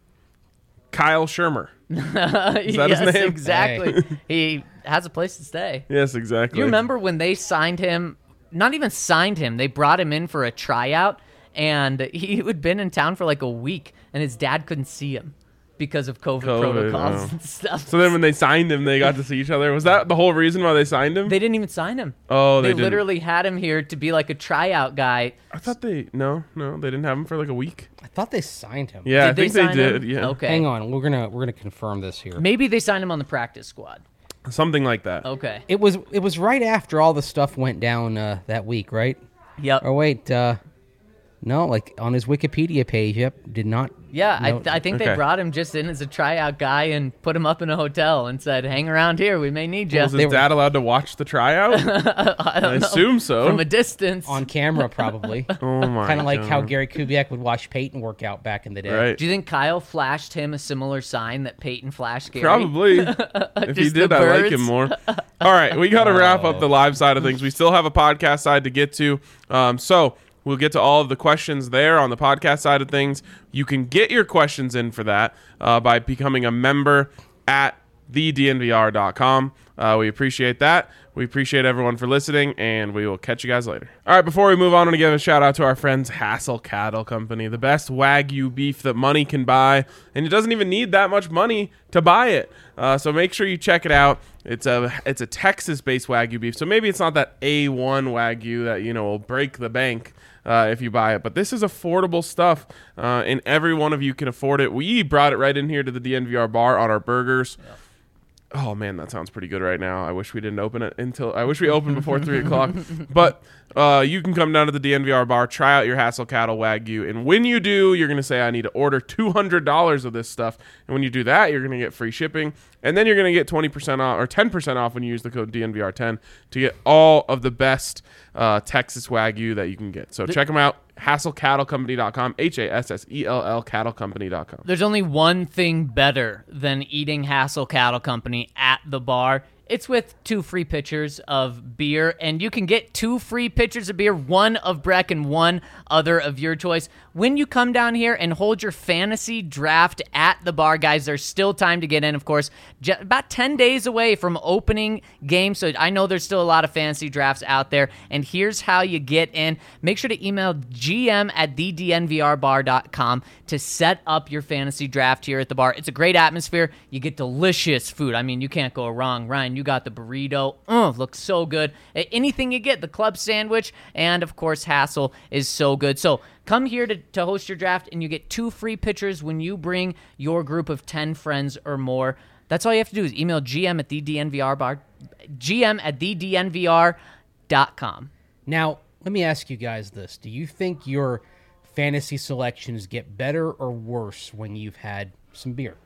Kyle Shermer. Is that his yes, name? exactly. He has a place to stay. Yes, exactly. You remember when they signed him? Not even signed him. They brought him in for a tryout, and he had been in town for like a week, and his dad couldn't see him because of COVID, COVID, protocols oh. and stuff. So then when they signed him, they got to see each other. Was that the whole reason why they signed him? They didn't even sign him. oh, they, They, didn't. literally had him here to be like a tryout guy. I thought they no, no, they didn't have him for like a week. I thought they signed him. Yeah, Did I think they, sign did. him? Yeah, Okay. Hang on, we're gonna we're gonna confirm this here. Maybe they signed him on the practice squad. something like that. Okay. It was it was right after all the stuff went down uh, that week, right? Yep. Or wait, uh, no, like on his Wikipedia page. Yep, did not. Yeah, I, no- th- I think Okay. they brought him just in as a tryout guy and put him up in a hotel and said, "Hang around here. We may need you." Was They his were- dad allowed to watch the tryout? I don't I know. assume so. From a distance. on camera probably. oh my! Kind of like how God. Gary Kubiak would watch Peyton work out back in the day. Right. Do you think Kyle flashed him a similar sign that Peyton flashed Gary? Probably. If he Just did, the I like birds. him more. All right, we got to wrap up the live side of things. We still have a podcast side to get to. Um, so we'll get to all of the questions there on the podcast side of things. You can get your questions in for that uh, by becoming a member at the d n v r dot com. Uh, we appreciate that. We appreciate everyone for listening, and we will catch you guys later. All right, before we move on, I want to give a shout out to our friends Hassel Cattle Company, the best Wagyu beef that money can buy, and it doesn't even need that much money to buy it. Uh, so make sure you check it out. It's a it's a Texas-based Wagyu beef, so maybe it's not that A one Wagyu that you know will break the bank uh, if you buy it, but this is affordable stuff, uh, and every one of you can afford it. We brought it right in here to the D N V R bar on our burgers. Yeah. Oh man, that sounds pretty good right now. I wish we didn't open it until I wish we opened before three o'clock. But uh, you can come down to the D N V R bar, try out your Hassel Cattle Wagyu, and when you do, you're gonna say, "I need to order two hundred dollars of this stuff." And when you do that, you're gonna get free shipping, and then you're gonna get twenty percent off or ten percent off when you use the code D N V R ten to get all of the best uh, Texas Wagyu that you can get. So check them out. Hassel Cattle Company dot com, H A S S E L L Cattle Company dot com. There's only one thing better than eating Hassel Cattle Company at the bar, It's with two free pitchers of beer, and you can get two free pitchers of beer, one of Breck and one other of your choice. When you come down here and hold your fantasy draft at the bar, guys, there's still time to get in, of course. J- about ten days away from opening game, so I know there's still a lot of fantasy drafts out there, and here's how you get in. Make sure to email G M at the D N V R bar dot com to set up your fantasy draft here at the bar. It's a great atmosphere. You get delicious food. I mean, you can't go wrong. Ryan, you got the burrito. Oh, looks so good. Anything you get, the club sandwich, and of course, Hassel is so good. So come here to, to host your draft, and you get two free pitchers when you bring your group of ten friends or more. That's all you have to do is email G M at the D N V R bar, G M at the D N V R dot com. Now, let me ask you guys this. Do you think your fantasy selections get better or worse when you've had some beer?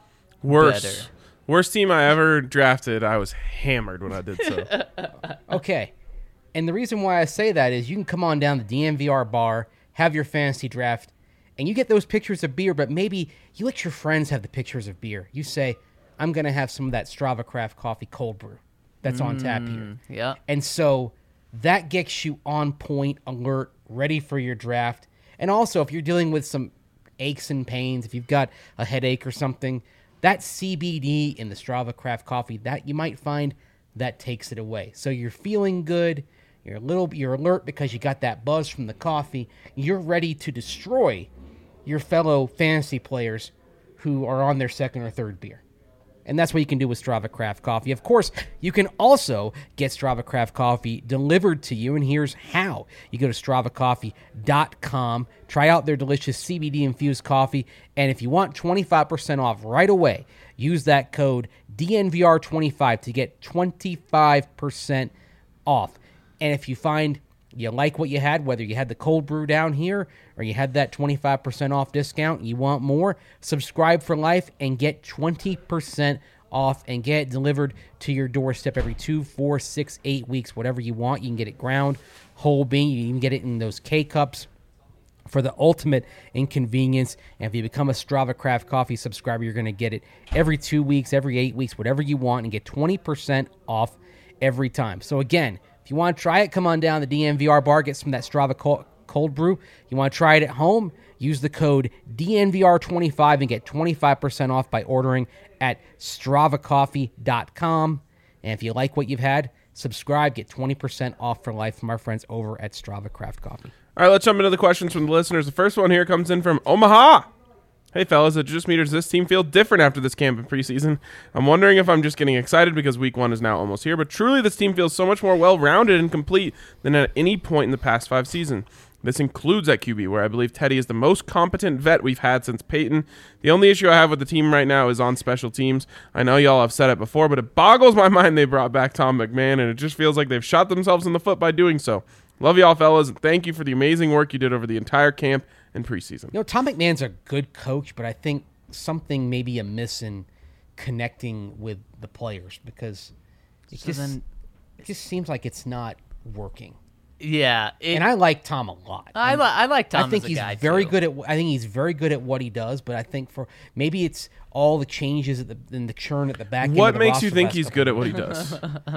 Worse. Better. Worst team I ever drafted. I was hammered when I did so. Okay. And the reason why I say that is you can come on down to the D N V R bar, have your fantasy draft, and you get those pictures of beer, but maybe you let your friends have the pictures of beer. You say, I'm going to have some of that Strava Craft Coffee cold brew that's on tap here. Yeah. And so that gets you on point, alert, ready for your draft. And also, if you're dealing with some aches and pains, if you've got a headache or something, that C B D in the Strava Craft Coffee, that you might find that takes it away. So you're feeling good, you're a little, you're alert because you got that buzz from the coffee. You're ready to destroy your fellow fantasy players who are on their second or third beer. And that's what you can do with Strava Craft Coffee. Of course, you can also get Strava Craft Coffee delivered to you, and here's how. You go to strava coffee dot com, try out their delicious C B D-infused coffee, and if you want twenty-five percent off right away, use that code D N V R twenty-five to get twenty-five percent off. And if you find you like what you had, whether you had the cold brew down here or you had that twenty-five percent off discount, you want more, subscribe for life and get twenty percent off and get it delivered to your doorstep every two, four, six, eight weeks, whatever you want. You can get it ground, whole bean. You can get it in those K-Cups for the ultimate inconvenience. And if you become a Strava Craft Coffee subscriber, you're going to get it every two weeks, every eight weeks, whatever you want, and get twenty percent off every time. So again, if you want to try it, come on down to the D N V R bar, get some of that Strava cold, cold brew. You want to try it at home, use the code D N V R twenty-five and get twenty-five percent off by ordering at strava coffee dot com. And if you like what you've had, subscribe, get twenty percent off for life from our friends over at Strava Craft Coffee. All right, let's jump into the questions from the listeners. The first one here comes in from Omaha. Hey, fellas, at Just Me, does this team feel different after this camp in preseason? I'm wondering if I'm just getting excited because week one is now almost here, but truly this team feels so much more well-rounded and complete than at any point in the past five seasons. This includes at Q B, where I believe Teddy is the most competent vet we've had since Peyton. The only issue I have with the team right now is on special teams. I know y'all have said it before, but it boggles my mind they brought back Tom McMahon, and it just feels like they've shot themselves in the foot by doing so. Love y'all, fellas, and thank you for the amazing work you did over the entire camp and preseason. You know, Tom McMahon's a good coach, but I think something maybe amiss in connecting with the players because it, So just, then- it just seems like it's not working. Yeah. It, And I like Tom a lot. I, li- I like Tom I think as a he's guy, very too. good at. I think he's very good at what he does. But I think for maybe it's all the changes at the and the churn at the back end. What of the makes you roster think last he's couple good at what he does?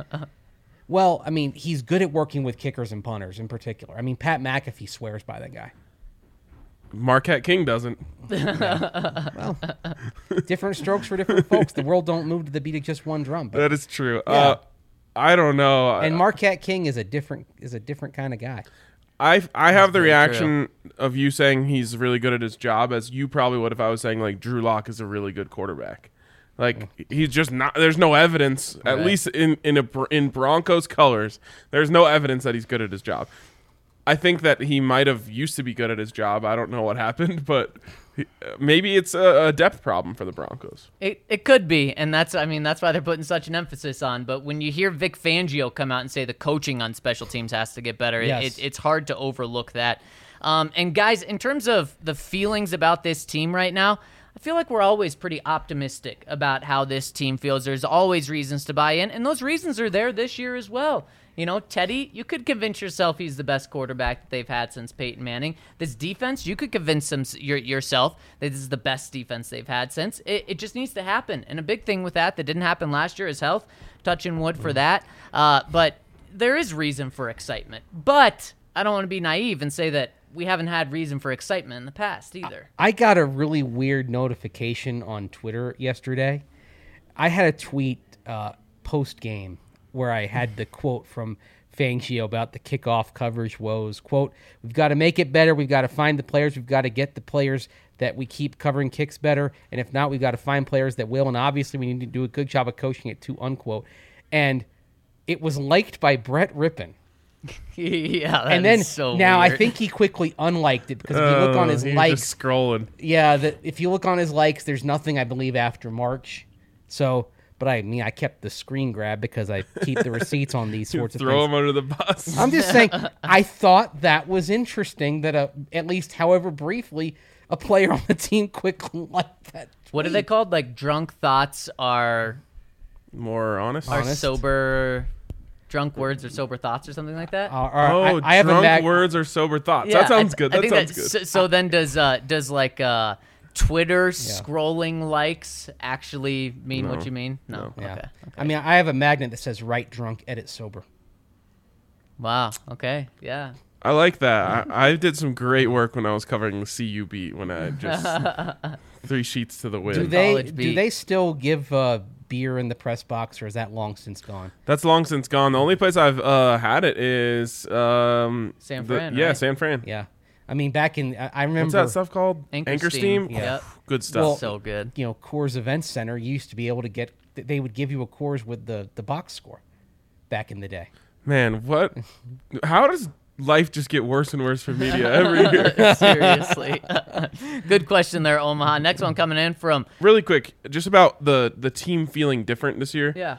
Well, I mean, he's good at working with kickers and punters in particular. I mean, Pat McAfee swears by that guy. Marquette King doesn't. Well, different strokes for different folks. The world don't move to the beat of just one drum. But, That is true. Yeah. Uh, I don't know. and Marquette King is a different is a different kind of guy. I I have the very reaction of you saying he's really good at his job as you probably would if I was saying like Drew Lock is a really good quarterback. Like he's just not. There's no evidence, at Right. least in in a in Broncos colors. There's no evidence that he's good at his job. I think that he might have used to be good at his job. I don't know what happened, but he, maybe it's a, a depth problem for the Broncos. It it could be, and that's I mean that's why they're putting such an emphasis on. But when you hear Vic Fangio come out and say the coaching on special teams has to get better, it, Yes. it, it's hard to overlook that. Um, and guys, in terms of the feelings about this team right now, I feel like we're always pretty optimistic about how this team feels. There's always reasons to buy in, and those reasons are there this year as well. You know, Teddy, you could convince yourself he's the best quarterback that they've had since Peyton Manning. This defense, you could convince them, your, yourself that this is the best defense they've had since. It, it just needs to happen. And a big thing with that that didn't happen last year is health. Touching wood for that. Uh, but there is reason for excitement. But I don't want to be naive and say that we haven't had reason for excitement in the past either. I got a really weird notification on Twitter yesterday. I had a tweet uh, post-game where I had the quote from Fangio about the kickoff coverage woes. Quote, we've got to make it better. We've got to find the players. We've got to get the players that we keep covering kicks better. And if not, we've got to find players that will. And obviously we need to do a good job of coaching it too, unquote. And it was liked by Brett Rippon. yeah, that and then is so now weird. I think he quickly unliked it because if you look on his Oh, he's likes, just scrolling. yeah, the, if you look on his likes, there's nothing I believe after March. So, but I mean, I kept the screen grab because I keep the receipts on these sorts of Throw things. him under the bus. I'm just saying, I thought that was interesting that a, at least, however briefly, a player on the team quickly liked that. What are they called? Like drunk thoughts are More honest. are Honest. sober, drunk words or sober thoughts or something like that. Uh, or Oh, I, I have a drunk mag- words or sober thoughts. Yeah, that sounds I, good. I That think sounds that- good. So, so then does uh does like uh Twitter scrolling likes actually mean what you mean? No. Yeah. Okay. I mean, I have a magnet that says "write drunk, edit sober." Wow. Okay. Yeah. I like that. I, I did some great work when I was covering the C U beat when I just three sheets to the wind. Do they College do beat. they still give uh, beer in the press box, or is that long since gone? That's long since gone. The only place I've uh, had it is um, San the- Fran, Yeah, right? San Fran. Yeah, I mean, back in I, I remember What's that stuff called? Anchor Steam. Steam. Yeah. Good stuff. Well, So good. you know, Coors Event Center, you used to be able to get. They would give you a Coors with the the box score, back in the day. Man, what? How does life just get worse and worse for media every year? Seriously. Good question there, Omaha. Next one coming in from Really quick, just about the the team feeling different this year. yeah.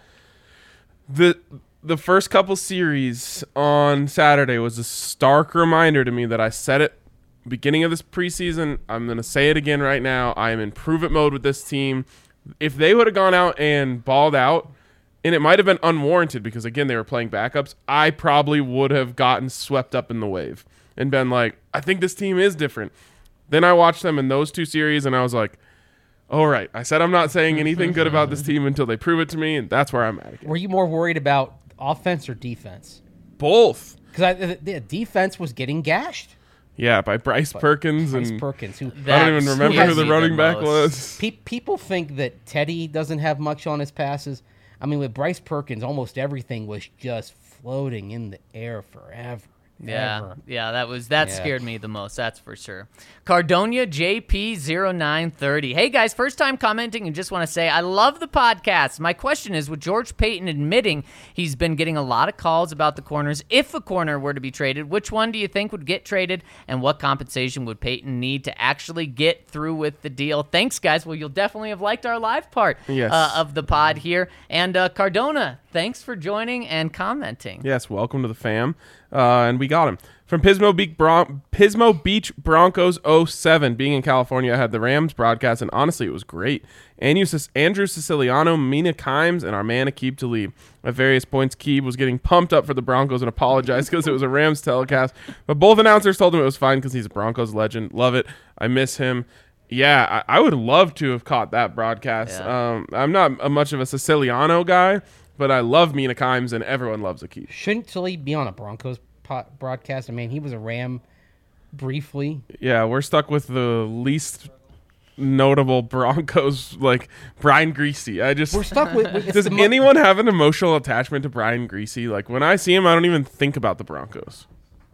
The the first couple series on Saturday was a stark reminder to me that I said it beginning of this preseason. I'm going to say it again right now. I am in prove it mode with this team. If they would have gone out and balled out, and it might have been unwarranted because, again, they were playing backups, I probably would have gotten swept up in the wave and been like, I think this team is different. Then I watched them in those two series, and I was like, all right, I said I'm not saying anything good about this team until they prove it to me, and that's where I'm at again. Were you more worried about offense or defense? Both. Because the, the defense was getting gashed. Yeah, by Bryce Perkins. Bryce and Perkins, who I don't That even remember who scares the me running back most. was. Pe- people think that Teddy doesn't have much on his passes. I mean, with Bryce Perkins, almost everything was just floating in the air forever. Yeah, ever. yeah, that was that Yeah. scared me the most. That's for sure. Cardonia J P zero nine thirty. Hey guys, first time commenting and just want to say I love the podcast. My question is, with George Payton admitting he's been getting a lot of calls about the corners, if a corner were to be traded, which one do you think would get traded, and what compensation would Payton need to actually get through with the deal? Thanks, guys. Well, you'll definitely have liked our live part Yes. uh, of the pod here. And uh, Cardona, thanks for joining and commenting. Yes, welcome to the fam. Uh, and we got him. From Pismo Beach, Bron- Pismo Beach Broncos oh seven. Being in California, I had the Rams broadcast, and honestly, it was great. Andrew, Andrew Siciliano, Mina Kimes, and our man Aqib Talib. At various points, Aqib was getting pumped up for the Broncos and apologized because it was a Rams telecast. But both announcers told him it was fine because he's a Broncos legend. Love it. I miss him. Yeah, I, I would love to have caught that broadcast. Yeah. Um, I'm not a, much of a Siciliano guy, but I love Mina Kimes, and everyone loves Aqib. Shouldn't Talib be on a Broncos po- broadcast? I mean, he was a Ram briefly. Yeah, we're stuck with the least notable Broncos, like Brian Greasy. I just We're stuck with. with it's does the mo- anyone have an emotional attachment to Brian Greasy? Like when I see him, I don't even think about the Broncos.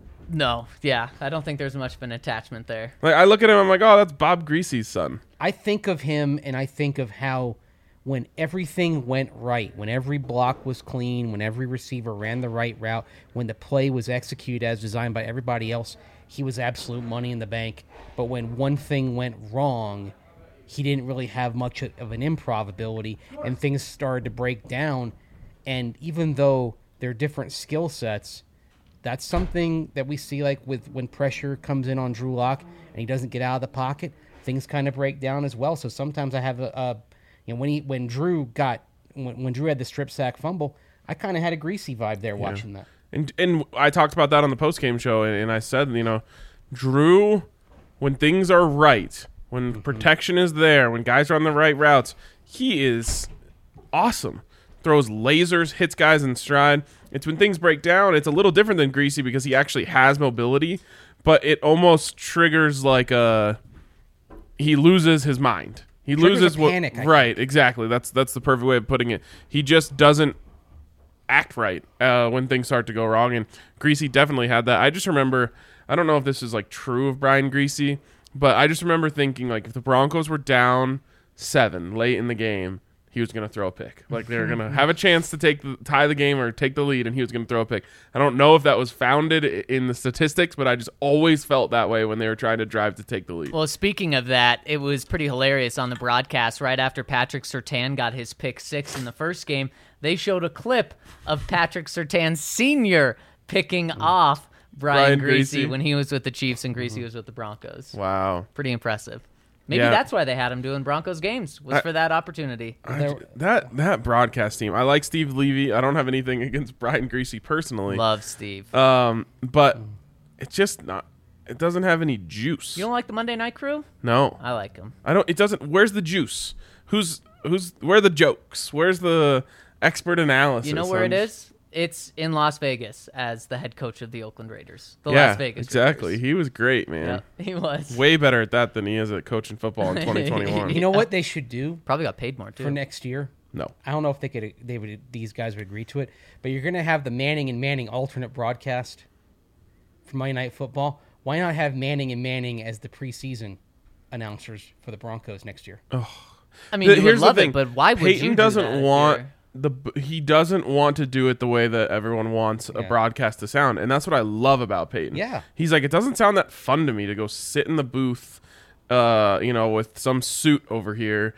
No, yeah, I don't think there's much of an attachment there. Like I look at him, I'm like, oh, that's Bob Greasy's son. I think of him and I think of how when everything went right, when every block was clean, when every receiver ran the right route, when the play was executed as designed by everybody else, he was absolute money in the bank. But when one thing went wrong, he didn't really have much of an improv ability, and things started to break down. And even though they're different skill sets, that's something that we see like with when pressure comes in on Drew Lock and he doesn't get out of the pocket, things kind of break down as well. So sometimes I have a, a you know, when he when Drew got when, when Drew had the strip sack fumble, I kind of had a Greasy vibe there watching that. And and I talked about that on the post-game show, and, and I said, you know, Drew, when things are right, when Mm-hmm. protection is there, when guys are on the right routes, he is awesome. Throws lasers, hits guys in stride. It's when things break down, it's a little different than Greasy because he actually has mobility, but it almost triggers like a he loses his mind. He Triggers loses a what panic, I right, exactly. That's that's the perfect way of putting it. He just doesn't act right uh, when things start to go wrong, and Greasy definitely had that. I just remember, I don't know if this is like true of Brian Greasy, but I just remember thinking like if the Broncos were down seven late in the game, he was going to throw a pick. Like they were going to have a chance to take the, tie the game or take the lead, and he was going to throw a pick. I don't know if that was founded i- in the statistics, but I just always felt that way when they were trying to drive to take the lead. Well, speaking of that, it was pretty hilarious on the broadcast right after Patrick Surtain got his pick six in the first game. They showed a clip of Patrick Surtain Senior picking off Brian, Brian Greasy, Greasy. when he was with the Chiefs and Greasy was with the Broncos. Wow. Pretty impressive. Maybe Yeah. that's why they had him doing Broncos games, was I- for that opportunity. I- that that broadcast team. I like Steve Levy. I don't have anything against Brian Greasy personally. Love Steve. Um, but it's just not. It doesn't have any juice. You don't like the Monday Night Crew? No, I like him. I don't. It doesn't. Where's the juice? Who's who's? Where are the jokes? Where's the expert analysis? You know where on- it is? It's in Las Vegas as the head coach of the Oakland Raiders. The Yeah, Las Vegas exactly. Raiders. He was great, man. Yeah, he was. Way better at that than he is at coaching football in twenty twenty-one. You know what they should do Probably got paid more, too. for next year? No. I don't know if they could. They would. These guys would agree to it. But you're going to have the Manning and Manning alternate broadcast for Monday Night Football. Why not have Manning and Manning as the preseason announcers for the Broncos next year? I mean, The- you would here's the love thing. it, but why would Peyton you do doesn't that if want you're- the he doesn't want to do it the way that everyone wants a Yeah. broadcast to sound, and that's what I love about Peyton. Yeah. He's like, it doesn't sound that fun to me to go sit in the booth, uh, you know, with some suit over here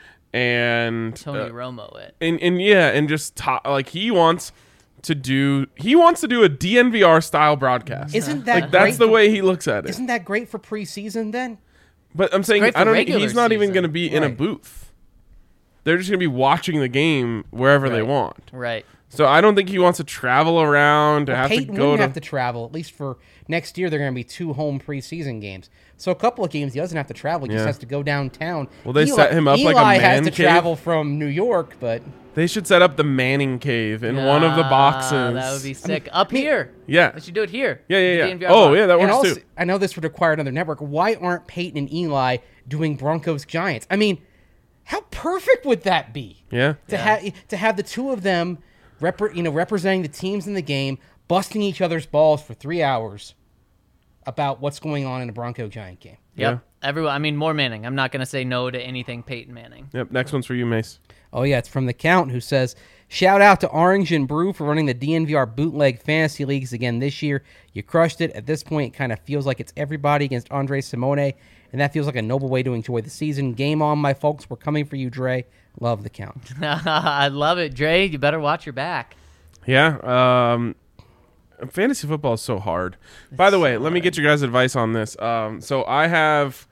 and Tony uh, Romo it. and and yeah, and just talk, like he wants to do he wants to do a D N V R style broadcast. Isn't that like that's great the for- way he looks at it. Isn't that great for preseason then? But I'm saying great I for don't. regular He's not even season. going to be in a Right. booth. They're just going to be watching the game wherever they Right. want. Right. So I don't think he wants to travel around to have Peyton to go wouldn't to. have to travel. At least for next year, they're going to be two home preseason games. So a couple of games he doesn't have to travel. He Yeah. just has to go downtown. Well, they Eli, set him up Eli like a has man to cave. travel from New York, but They should set up the Manning Cave in one of the Ah, boxes. That would be sick. Up here. Yeah. They should do it here. Yeah, yeah, The yeah. D N V R Oh, box. yeah, that and works also, too. I know this would require another network. Why aren't Peyton and Eli doing Broncos Giants? I mean, how perfect would that be? Yeah. To have to have the two of them, repre- you know, representing the teams in the game, busting each other's balls for three hours about what's going on in a Bronco Giant game. Yep. Everyone. I mean, more Manning. I'm not going to say no to anything Peyton Manning. Yep. Next one's for you, Mace. Oh yeah, it's from the Count, who says, "Shout out to Orange and Brew for running the D N V R bootleg fantasy leagues again this year. You crushed it. At this point, it kind of feels like it's everybody against Andre Simone, and that feels like a noble way to enjoy the season. Game on, my folks. We're coming for you, Dre. Love the Count." I love it, Dre. You better watch your back. Yeah. Um, fantasy football is so hard. By the way, let me get your guys' advice on this. Um, so I have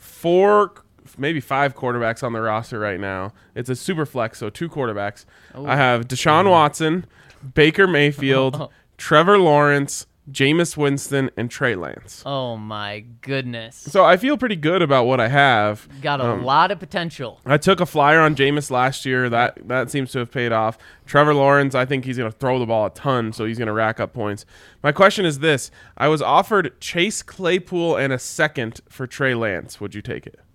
four, maybe five quarterbacks on the roster right now. It's a super flex, so two quarterbacks. I have Deshaun Watson, Baker Mayfield, Trevor Lawrence, Jameis Winston, and Trey Lance. Oh my goodness. So I feel pretty good about what I have. Got a Um, lot of potential. I took a flyer on Jameis last year. That that seems to have paid off. Trevor Lawrence, I think he's going to throw the ball a ton, so he's going to rack up points. My question is this. I was offered Chase Claypool and a second for Trey Lance. Would you take it?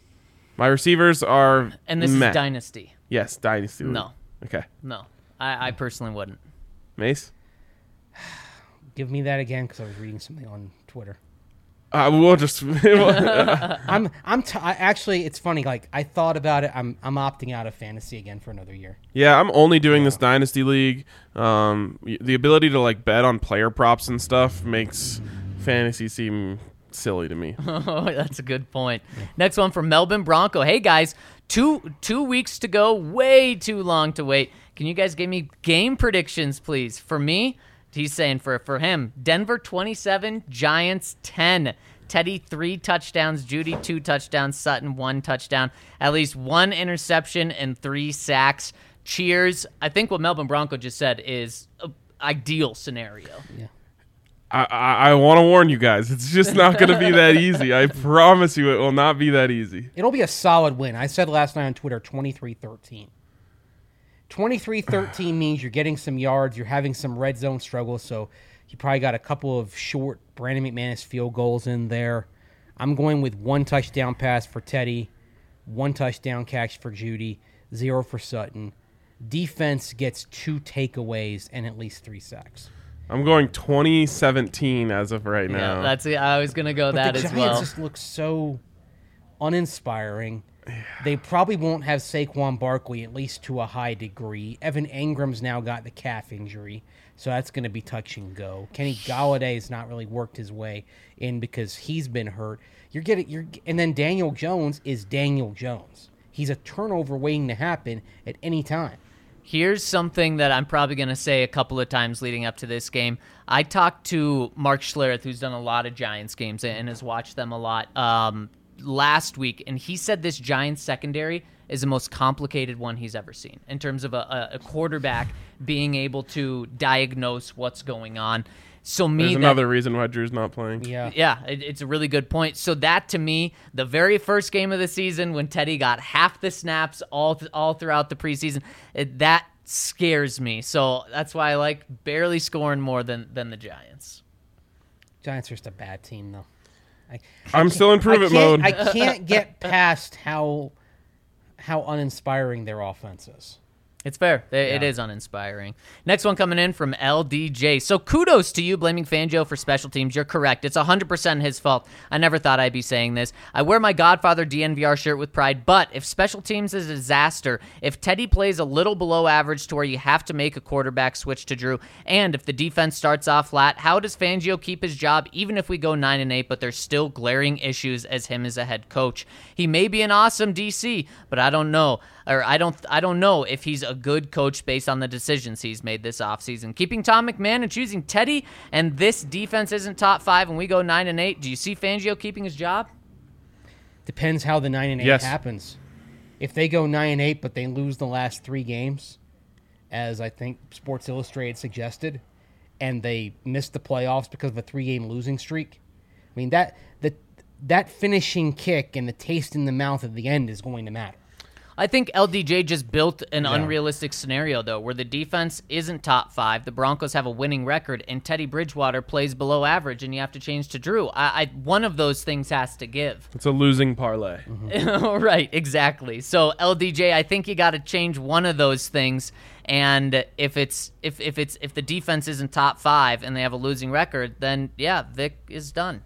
My receivers are And this meh. is Dynasty. Yes, Dynasty. League. No. Okay. No. I, I personally wouldn't. Mace? Give me that again because I was reading something on Twitter. Uh, we'll just... I'm I'm t- I, actually it's funny. Like I thought about it. I'm I'm opting out of fantasy again for another year. Yeah, I'm only doing this Dynasty League. Um, y- the ability to like bet on player props and stuff makes fantasy seem silly to me. Oh, that's a good point. Next one from Melbourne Bronco. Hey guys, two two weeks to go. Way too long to wait. Can you guys give me game predictions, please? For me, he's saying for for him, Denver twenty-seven, Giants ten. Teddy three touchdowns, Judy two touchdowns, Sutton one touchdown, at least one interception and three sacks. cheers. I think what Melvin Bronco just said is an ideal scenario. Yeah. I, I, I want to warn you guys. It's just not going to be that easy. I promise you it will not be that easy. It'll be a solid win. I said last night on Twitter, twenty-three thirteen. twenty-three thirteen means you're getting some yards, you're having some red zone struggles, so you probably got a couple of short Brandon McManus field goals in there. I'm going with one touchdown pass for Teddy, one touchdown catch for Judy, zero for Sutton. Defense gets two takeaways and at least three sacks. I'm going twenty seventeen as of right now. Yeah, that's it. I was gonna go But that the as Giants well. just look so uninspiring. They probably won't have Saquon Barkley, at least to a high degree. Evan Ingram's now got the calf injury, so that's going to be touch and go. Kenny Galladay has not really worked his way in because he's been hurt. You're getting, you're, and then Daniel Jones is Daniel Jones. He's a turnover waiting to happen at any time. Here's something that I'm probably going to say a couple of times leading up to this game. I talked to Mark Schlereth, who's done a lot of Giants games and has watched them a lot um, last week, and he said this Giants secondary is the most complicated one he's ever seen in terms of a, a quarterback being able to diagnose what's going on. So me, There's that, another reason why Drew's not playing. Yeah. Yeah, it, it's a really good point. So that, to me, the very first game of the season when Teddy got half the snaps all th- all throughout the preseason, it, that scares me. So that's why I like barely scoring more than, than the Giants. Giants are just a bad team, though. I, I'm still in prove I it can't- mode. I can't get past how how uninspiring their offense is. It's fair. It Yeah. is uninspiring. Next one coming in from L D J. So kudos to you blaming Fangio for special teams. You're correct. It's one hundred percent his fault. I never thought I'd be saying this. I wear my Godfather D N V R shirt with pride, but if special teams is a disaster, if Teddy plays a little below average to where you have to make a quarterback switch to Drew, and if the defense starts off flat, how does Fangio keep his job even if we go nine and eight, but there's still glaring issues as him as a head coach? He may be an awesome D C, but I don't know. Or I don't I don't know if he's a good coach based on the decisions he's made this offseason. Keeping Tom McMahon and choosing Teddy, and this defense isn't top five and we go nine and eight. Do you see Fangio keeping his job? Depends how the nine and eight Yes. happens. If they go nine and eight, but they lose the last three games, as I think Sports Illustrated suggested, and they miss the playoffs because of a three-game losing streak, I mean that the that finishing kick and the taste in the mouth at the end is going to matter. I think L D J just built an Yeah. unrealistic scenario, though, where the defense isn't top five, the Broncos have a winning record, and Teddy Bridgewater plays below average, and you have to change to Drew. I, I one of those things has to give. It's a losing parlay. Right, exactly. So L D J, I think you got to change one of those things. And if it's if if it's if the defense isn't top five and they have a losing record, then yeah, Vic is done.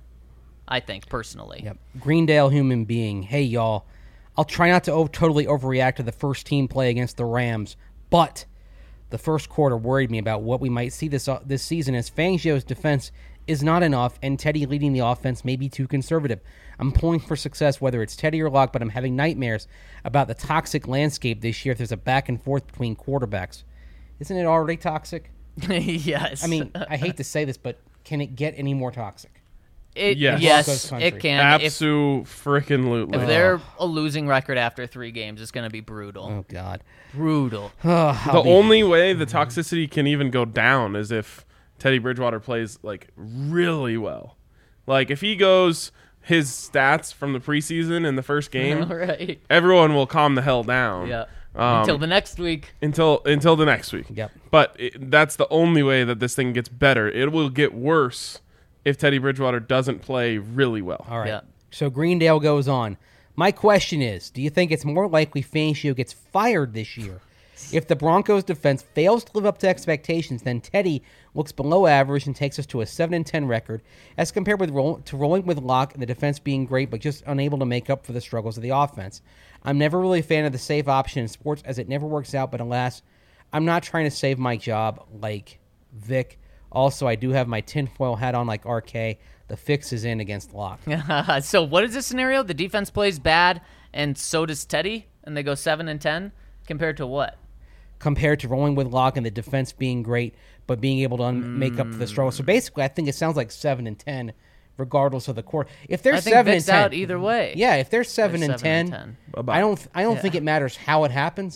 I think personally. Yep. Greendale human being. Hey, y'all. I'll try not to o- totally overreact to the first team play against the Rams, but the first quarter worried me about what we might see this uh, this season as Fangio's defense is not enough and Teddy leading the offense may be too conservative. I'm pulling for success whether it's Teddy or Locke, but I'm having nightmares about the toxic landscape this year if there's a back and forth between quarterbacks. Isn't it already toxic? Yes. I mean, I hate to say this, but can it get any more toxic? it, Yes. yes, Broncos country. it can. If, Absolute freaking lootly. if they're a losing record after three games, it's going to be brutal. Oh, God. Brutal. Oh, The I'll be- only way the toxicity can even go down is if Teddy Bridgewater plays like really well. Like if he goes his stats from the preseason in the first game, Right. everyone will calm the hell down. Yeah. Um, Until the next week. until until the next week. Yep. But it, that's the only way that this thing gets better. It will get worse if Teddy Bridgewater doesn't play really well. All right. Yeah. So Greendale goes on. My question is, do you think it's more likely Fangio gets fired this year? If the Broncos defense fails to live up to expectations, then Teddy looks below average and takes us to a seven and ten record, as compared with roll, to rolling with Locke and the defense being great but just unable to make up for the struggles of the offense. I'm never really a fan of the safe option in sports as it never works out, but alas, I'm not trying to save my job like Vic. Also, I do have my tinfoil hat on like R K. The fix is in against Locke. So what is this scenario? The defense plays bad, and so does Teddy, and they go seven and ten compared to what? Compared to rolling with Locke and the defense being great, but being able to un- make up for the struggle. So basically, I think it sounds like seven and ten, regardless of the quarter. If they're I think seven Vic's and ten, out either way. yeah, if they're seven, and, seven and ten, ten. Bye-bye. I don't, I don't Yeah. think it matters how it happens.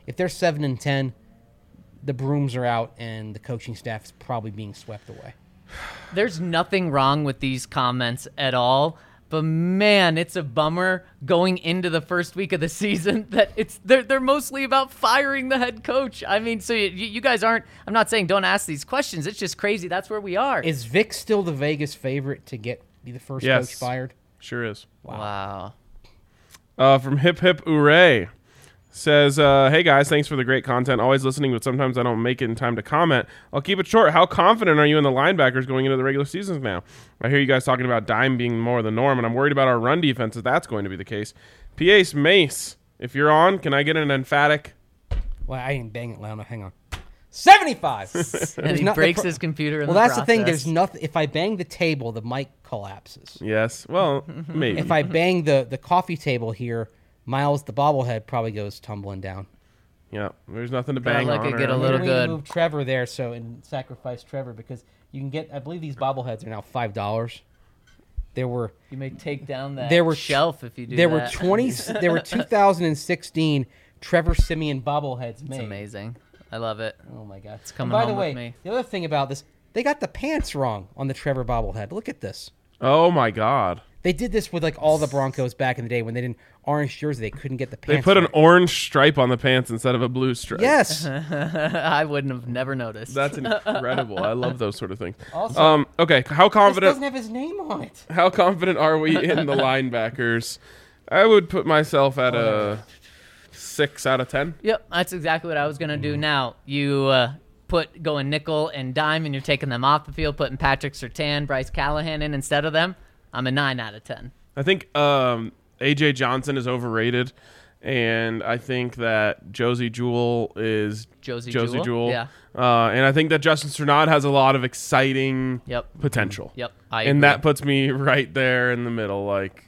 if they're seven and ten, the brooms are out and the coaching staff is probably being swept away. There's nothing wrong with these comments at all. But man, it's a bummer going into the first week of the season that it's they're they're mostly about firing the head coach. I mean, so you, you guys aren't. I'm not saying don't ask these questions. It's just crazy. That's where we are. Is Vic still the Vegas favorite to get be the first Yes. coach fired? Sure is. Wow. Uh, from Hip Hip Hooray says, uh, hey guys, thanks for the great content. Always listening, but sometimes I don't make it in time to comment. I'll keep it short. How confident are you in the linebackers going into the regular seasons now? I hear you guys talking about dime being more the norm, and I'm worried about our run defense if that's going to be the case. P. Ace Mace, if you're on, can I get an emphatic? Well, I didn't bang it loud enough. Hang on. seventy-five. And he not- breaks the pro- his computer in Well, the that's the thing. process. There's nothing. If I bang the table, the mic collapses. Yes. Well, maybe. If I bang the, the coffee table here, Miles, the bobblehead, probably goes tumbling down. Yeah, there's nothing to Gotta bang let on. it get or a little We need to good. move Trevor there, so and sacrifice Trevor because you can get. I believe these bobbleheads are now five dollars. There were You may take down that There were- shelf if you do there that. were twenty. There were two thousand sixteen Trevor Simeon bobbleheads made. It's amazing. I love it. Oh my god! It's coming by home the with way, me. the other thing about this, they got the pants wrong on the Trevor bobblehead. Look at this. Oh my God. They did this with like all the Broncos back in the day when they didn't orange jersey. They couldn't get the pants. They put an right. orange stripe on the pants instead of a blue stripe. Yes. I wouldn't have never noticed. That's incredible. I love those sort of things. Also, Um, okay, how this confident doesn't have his name on it. how confident are we in the linebackers? I would put myself at a six out of ten. Yep, that's exactly what I was gonna do. Now you uh, put going nickel and dime, and you're taking them off the field, putting Patrick Surtain, Bryce Callahan in instead of them. I'm a nine out of ten. I think um, A J Johnson is overrated, and I think that Josie Jewell is Josie Josie Jewell? Jewell. Yeah. Uh, and I think that Justin Strnad has a lot of exciting Yep. potential. Yep. I and agree. that puts me right there in the middle, like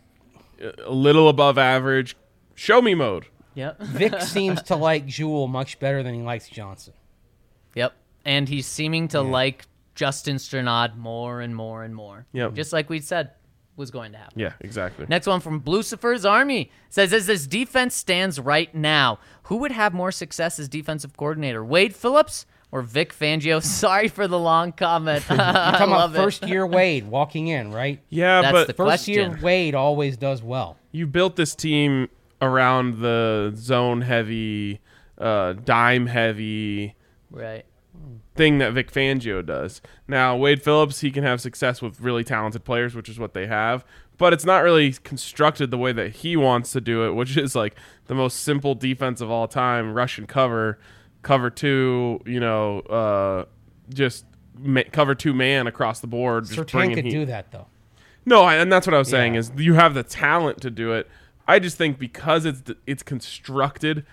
a little above average. Show me mode. Yep. Vic seems to like Jewel much better than he likes Johnson. Yep. And he's seeming to like Justin Strnad more and more and more. Yep. Just like we said was going to happen. Yeah, exactly. Next one from Lucifer's Army says, as this defense stands right now, who would have more success as defensive coordinator, Wade Phillips or Vic Fangio? Sorry for the long comment. You're I talking about love it. first year Wade walking in, right? Yeah, That's but the First year question. Wade always does well. you built this team around the zone heavy, uh, dime heavy Right. thing that Vic Fangio does. Now, Wade Phillips, he can have success with really talented players, which is what they have, but it's not really constructed the way that he wants to do it, which is like the most simple defense of all time, rush and cover, cover two, you know, uh, just ma- cover two man across the board. Just Surtain bringing could heat. do that though. No, I, and that's what I was saying Yeah. is you have the talent to do it. I just think because it's it's constructed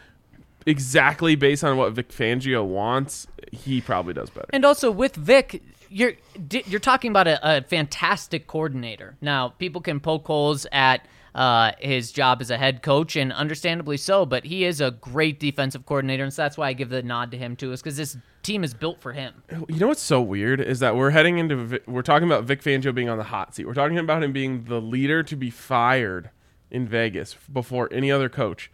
exactly based on what Vic Fangio wants, he probably does better. And also with Vic, you're di- you're talking about a, a fantastic coordinator. Now, people can poke holes at uh, his job as a head coach, and understandably so, but he is a great defensive coordinator, and so that's why I give the nod to him too, is because this team is built for him. You know what's so weird is that we're heading into Vi- we're talking about Vic Fangio being on the hot seat. We're talking about him being the leader to be fired in Vegas before any other coach.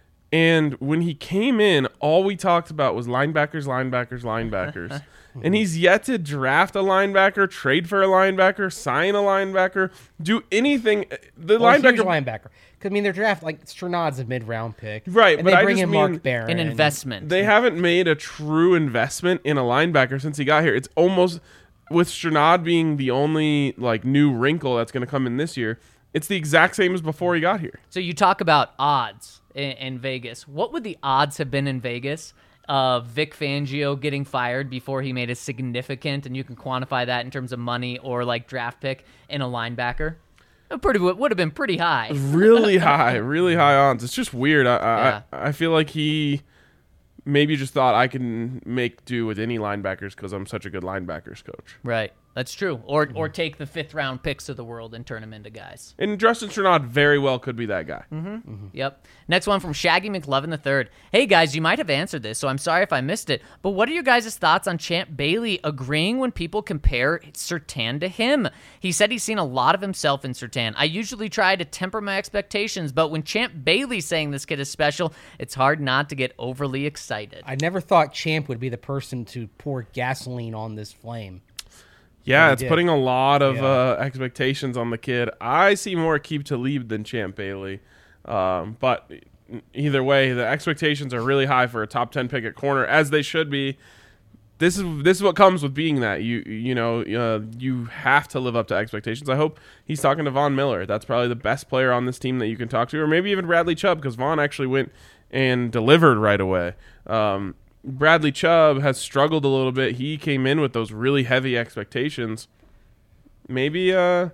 And when he came in, all we talked about was linebackers, linebackers, linebackers. And he's yet to draft a linebacker, trade for a linebacker, sign a linebacker, do anything. The Well, huge linebacker, linebacker. Because I mean, their draft like Strnad's a mid round pick, Right, And but they I bring just in mean Mark Barron, An investment. they haven't made a true investment in a linebacker since he got here. It's almost, with Strnad being the only like new wrinkle that's going to come in this year, it's the exact same as before he got here. So you talk about odds in, in Vegas. What would the odds have been in Vegas of Vic Fangio getting fired before he made a significant, and you can quantify that in terms of money or like draft pick, in a linebacker? It pretty would have been pretty high. Really high, really high odds. It's just weird. I, Yeah. I I feel like he maybe just thought I can make do with any linebackers because I'm such a good linebackers coach. Right. That's true. Or or take the fifth round picks of the world and turn them into guys. And Justin Strnad very well could be that guy. Mm-hmm. Yep. Next one from Shaggy McLovin the third. Hey guys, you might have answered this, so I'm sorry if I missed it. But what are your guys' thoughts on Champ Bailey agreeing when people compare Surtain to him? He said he's seen a lot of himself in Surtain. I usually try to temper my expectations, but when Champ Bailey's saying this kid is special, it's hard not to get overly excited. I never thought Champ would be the person to pour gasoline on this flame. Yeah, He it's did. putting a lot of Yeah. uh, expectations on the kid. I see more Aqib Talib than Champ Bailey. Um, but either way, the expectations are really high for a top ten pick at corner, as they should be. This is this is what comes with being that. You you know, uh, you have to live up to expectations. I hope he's talking to Von Miller. That's probably the best player on this team that you can talk to, or maybe even Bradley Chubb, because Von actually went and delivered right away. Um, Bradley Chubb has struggled a little bit. He came in with those really heavy expectations. Maybe uh,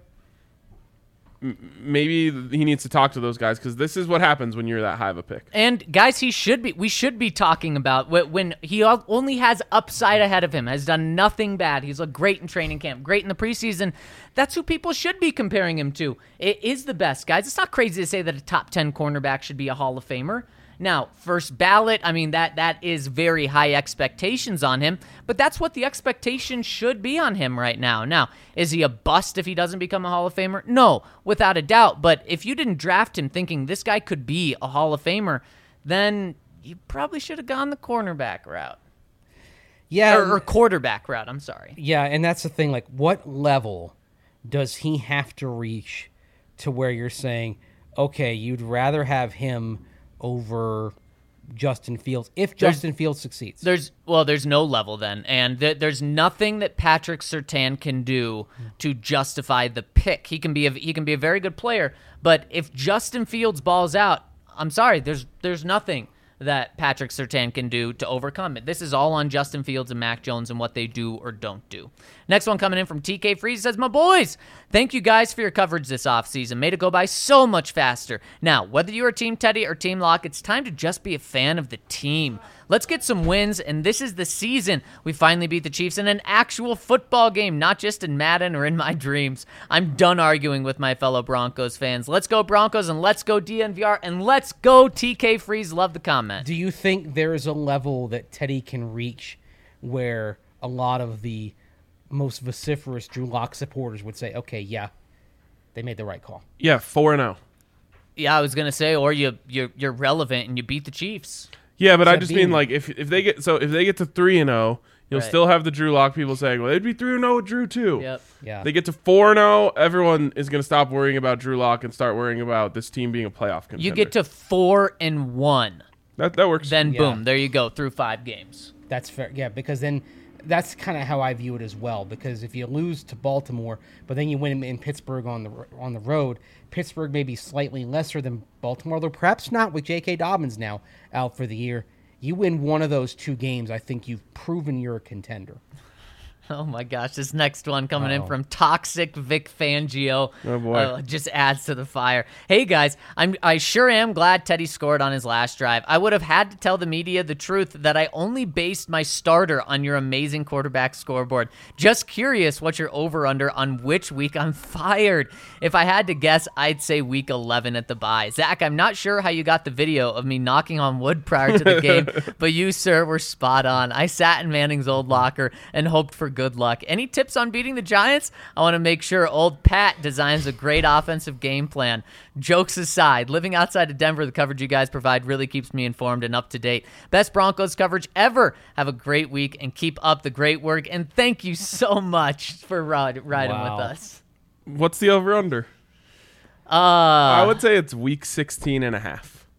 m- maybe he needs to talk to those guys, because this is what happens when you're that high of a pick. And guys, he should be. We should be talking about wh- when he al- only has upside ahead of him. Has done nothing bad. He's looked great in training camp, great in the preseason. That's who people should be comparing him to. It is the best, guys. It's not crazy to say that a top ten cornerback should be a Hall of Famer. Now, first ballot, I mean, that that is very high expectations on him, but that's what the expectation should be on him right now. Now, is he a bust if he doesn't become a Hall of Famer? No, without a doubt. But if you didn't draft him thinking this guy could be a Hall of Famer, then you probably should have gone the cornerback route. Yeah, Or, or quarterback route, I'm sorry. yeah, and that's the thing. Like, what level does he have to reach to where you're saying, okay, you'd rather have him over Justin Fields if There's- Justin Fields succeeds? There's well, there's no level then, and th- there's nothing that Patrick Surtain can do to justify the pick. He can be a, he can be a very good player, but if Justin Fields balls out, I'm sorry, there's there's nothing that Patrick Surtain can do to overcome it. This is all on Justin Fields and Mac Jones and what they do or don't do. Next one coming in from T K Freeze says, my boys, thank you guys for your coverage this offseason. Made it go by so much faster. Now, whether you're Team Teddy or Team Lock, it's time to just be a fan of the team. Let's get some wins, and this is the season. We finally beat the Chiefs in an actual football game, not just in Madden or in my dreams. I'm done arguing with my fellow Broncos fans. Let's go Broncos, and let's go D N V R, and let's go T K Freeze. Love the comment. Do you think there is a level that Teddy can reach where a lot of the most vociferous Drew Lock supporters would say, okay, yeah, they made the right call? Yeah, four and zero. Yeah, I was gonna say, or you you're, you're relevant and you beat the Chiefs. Yeah, but I that just being- mean like if if they get so if they get to three and zero, you'll Right. still have the Drew Lock people saying, well, they'd be three and zero with Drew too. Yep. Yeah. They get to four and zero, everyone is going to stop worrying about Drew Lock and start worrying about this team being a playoff contender. You get to four and one, that that works. then Yeah. boom, there you go through five games. That's fair. Yeah, because then that's kind of how I view it as well. Because if you lose to Baltimore, but then you win in Pittsburgh on the on the road, Pittsburgh may be slightly lesser than Baltimore, though perhaps not with J K. Dobbins now out for the year. You win one of those two games, I think you've proven you're a contender. Oh my gosh, this next one coming in Uh-oh. from Toxic Vic Fangio. Oh, boy. Uh, just adds to the fire. Hey guys, I'm I sure am glad Teddy scored on his last drive. I would have had to tell the media the truth that I only based my starter on your amazing quarterback scoreboard. Just curious what your over under on which week I'm fired. If I had to guess, I'd say week eleven at the bye. Zach, I'm not sure how you got the video of me knocking on wood prior to the game, but you, sir, were spot on. I sat in Manning's old locker and hoped for good luck. Any tips on beating the Giants? I want to make sure old Pat designs a great offensive game plan. Jokes aside, living outside of Denver, the coverage you guys provide really keeps me informed and up to date. Best Broncos coverage ever. Have a great week and keep up the great work. And thank you so much for ride, riding Wow. with us. What's the over under? Uh, I would say it's week sixteen and a half.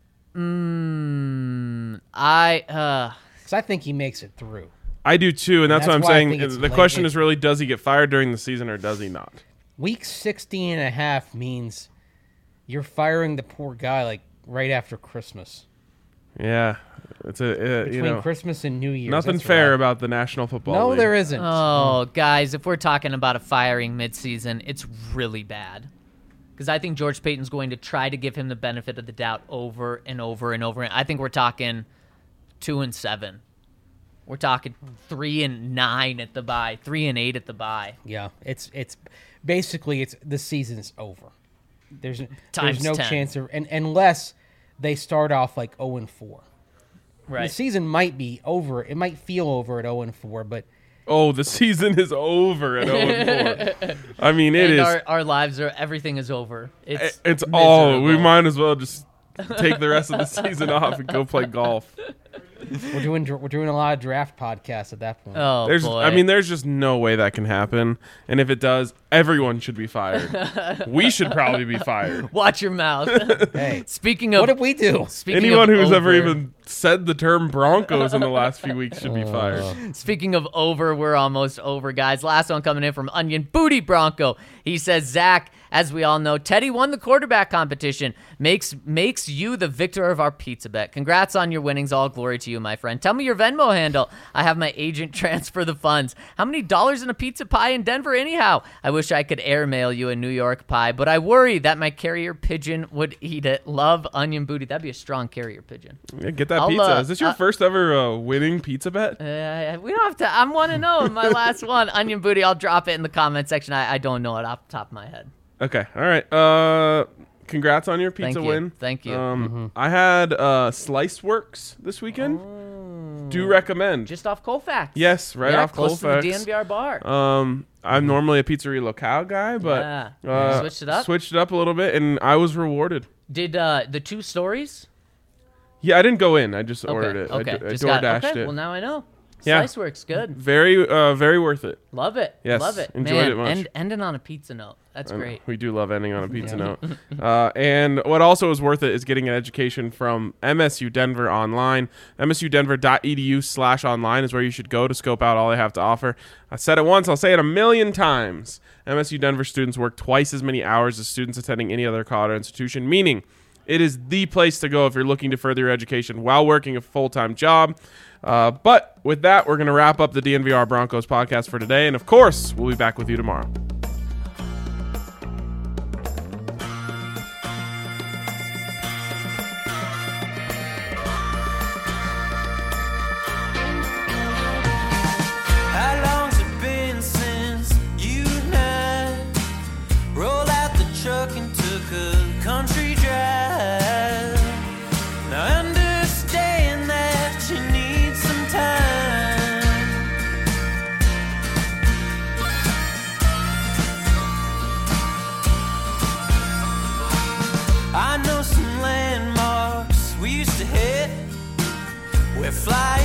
mm, I, uh, Because I think he makes it through. I do too, and that's, that's what I'm why I saying. think it's The late. question is really, does he get fired during the season or does he not? Week sixteen and a half means you're firing the poor guy like right after Christmas. Yeah, it's a uh, Between you know Christmas and New Year's. nothing that's fair rough. about the National Football No, League. there isn't. oh, guys, if we're talking about a firing midseason, it's really bad. Because I think George Payton's going to try to give him the benefit of the doubt over and over and over. I think we're talking two and seven. We're talking three and nine at the bye, three and eight at the bye. Yeah, it's it's basically it's the season's over. There's Times there's no ten. chance of, and unless they start off like zero and four. Right. The season might be over. It might feel over at zero and four, but Oh, the season is over at oh and four. I mean, it and is. Our, our lives are, everything is over. It's, It's all. We miserable. might as well just take the rest of the season off and go play golf. we're doing dr- we're doing a lot of draft podcasts at that point. Oh, There's, boy. I mean, there's just no way that can happen. And if it does, everyone should be fired. We should probably be fired. Watch your mouth. Hey, Speaking of what did we do? speaking Anyone of who's ever over- even said the term Broncos in the last few weeks should be fired. Speaking of over, we're almost over, guys. Last one coming in from Onion Booty Bronco. He says, Zach, as we all know, Teddy won the quarterback competition. Makes makes you the victor of our pizza bet. Congrats on your winnings. All glory to you, my friend. Tell me your Venmo handle. I have my agent transfer the funds. How many dollars in a pizza pie in Denver anyhow? I wish I could airmail you a New York pie, but I worry that my carrier pigeon would eat it. Love, Onion Booty. That'd be a strong carrier pigeon. Yeah, get that I'll, pizza. uh, Is this your uh, first ever uh, winning pizza bet? Uh, we don't have to. I'm one to know in my last one. Onion Booty. I'll drop it in the comment section. I, I don't know it off the top of my head. Okay. All right. Uh, congrats on your Thank pizza you. win. Thank you. Um, I had uh, Slice Works this weekend. Do recommend. Just off Colfax. Yes, right yeah, off close Colfax. to the D N V R bar. Um, I'm normally a pizzeria locale guy, but Yeah. uh, Switched it up? Switched it up a little bit, and I was rewarded. Did uh, the two stories? Yeah, I didn't go in. I just Okay. ordered it. Okay. I, d- I Just door got, dashed okay. it. Well, now I know. Yeah. Slice works good. Very, uh, very worth it. Love it. Yes, Love it. enjoyed Man, it much. End, ending on a pizza note. That's I know. great. We do love ending on a pizza note. Uh, and what also is worth it is getting an education from M S U Denver online. M S U denver dot e d u slash online is where you should go to scope out all they have to offer. I said it once, I'll say it a million times. M S U Denver students work twice as many hours as students attending any other Colorado institution, meaning it is the place to go if you're looking to further your education while working a full-time job. Uh, but with that, we're going to wrap up the D N V R Broncos podcast for today. And of course, we'll be back with you tomorrow. How long's it been since you and I rolled out the truck and took a country drive? Now I understand that you need some time. I know some landmarks we used to hit. We're flying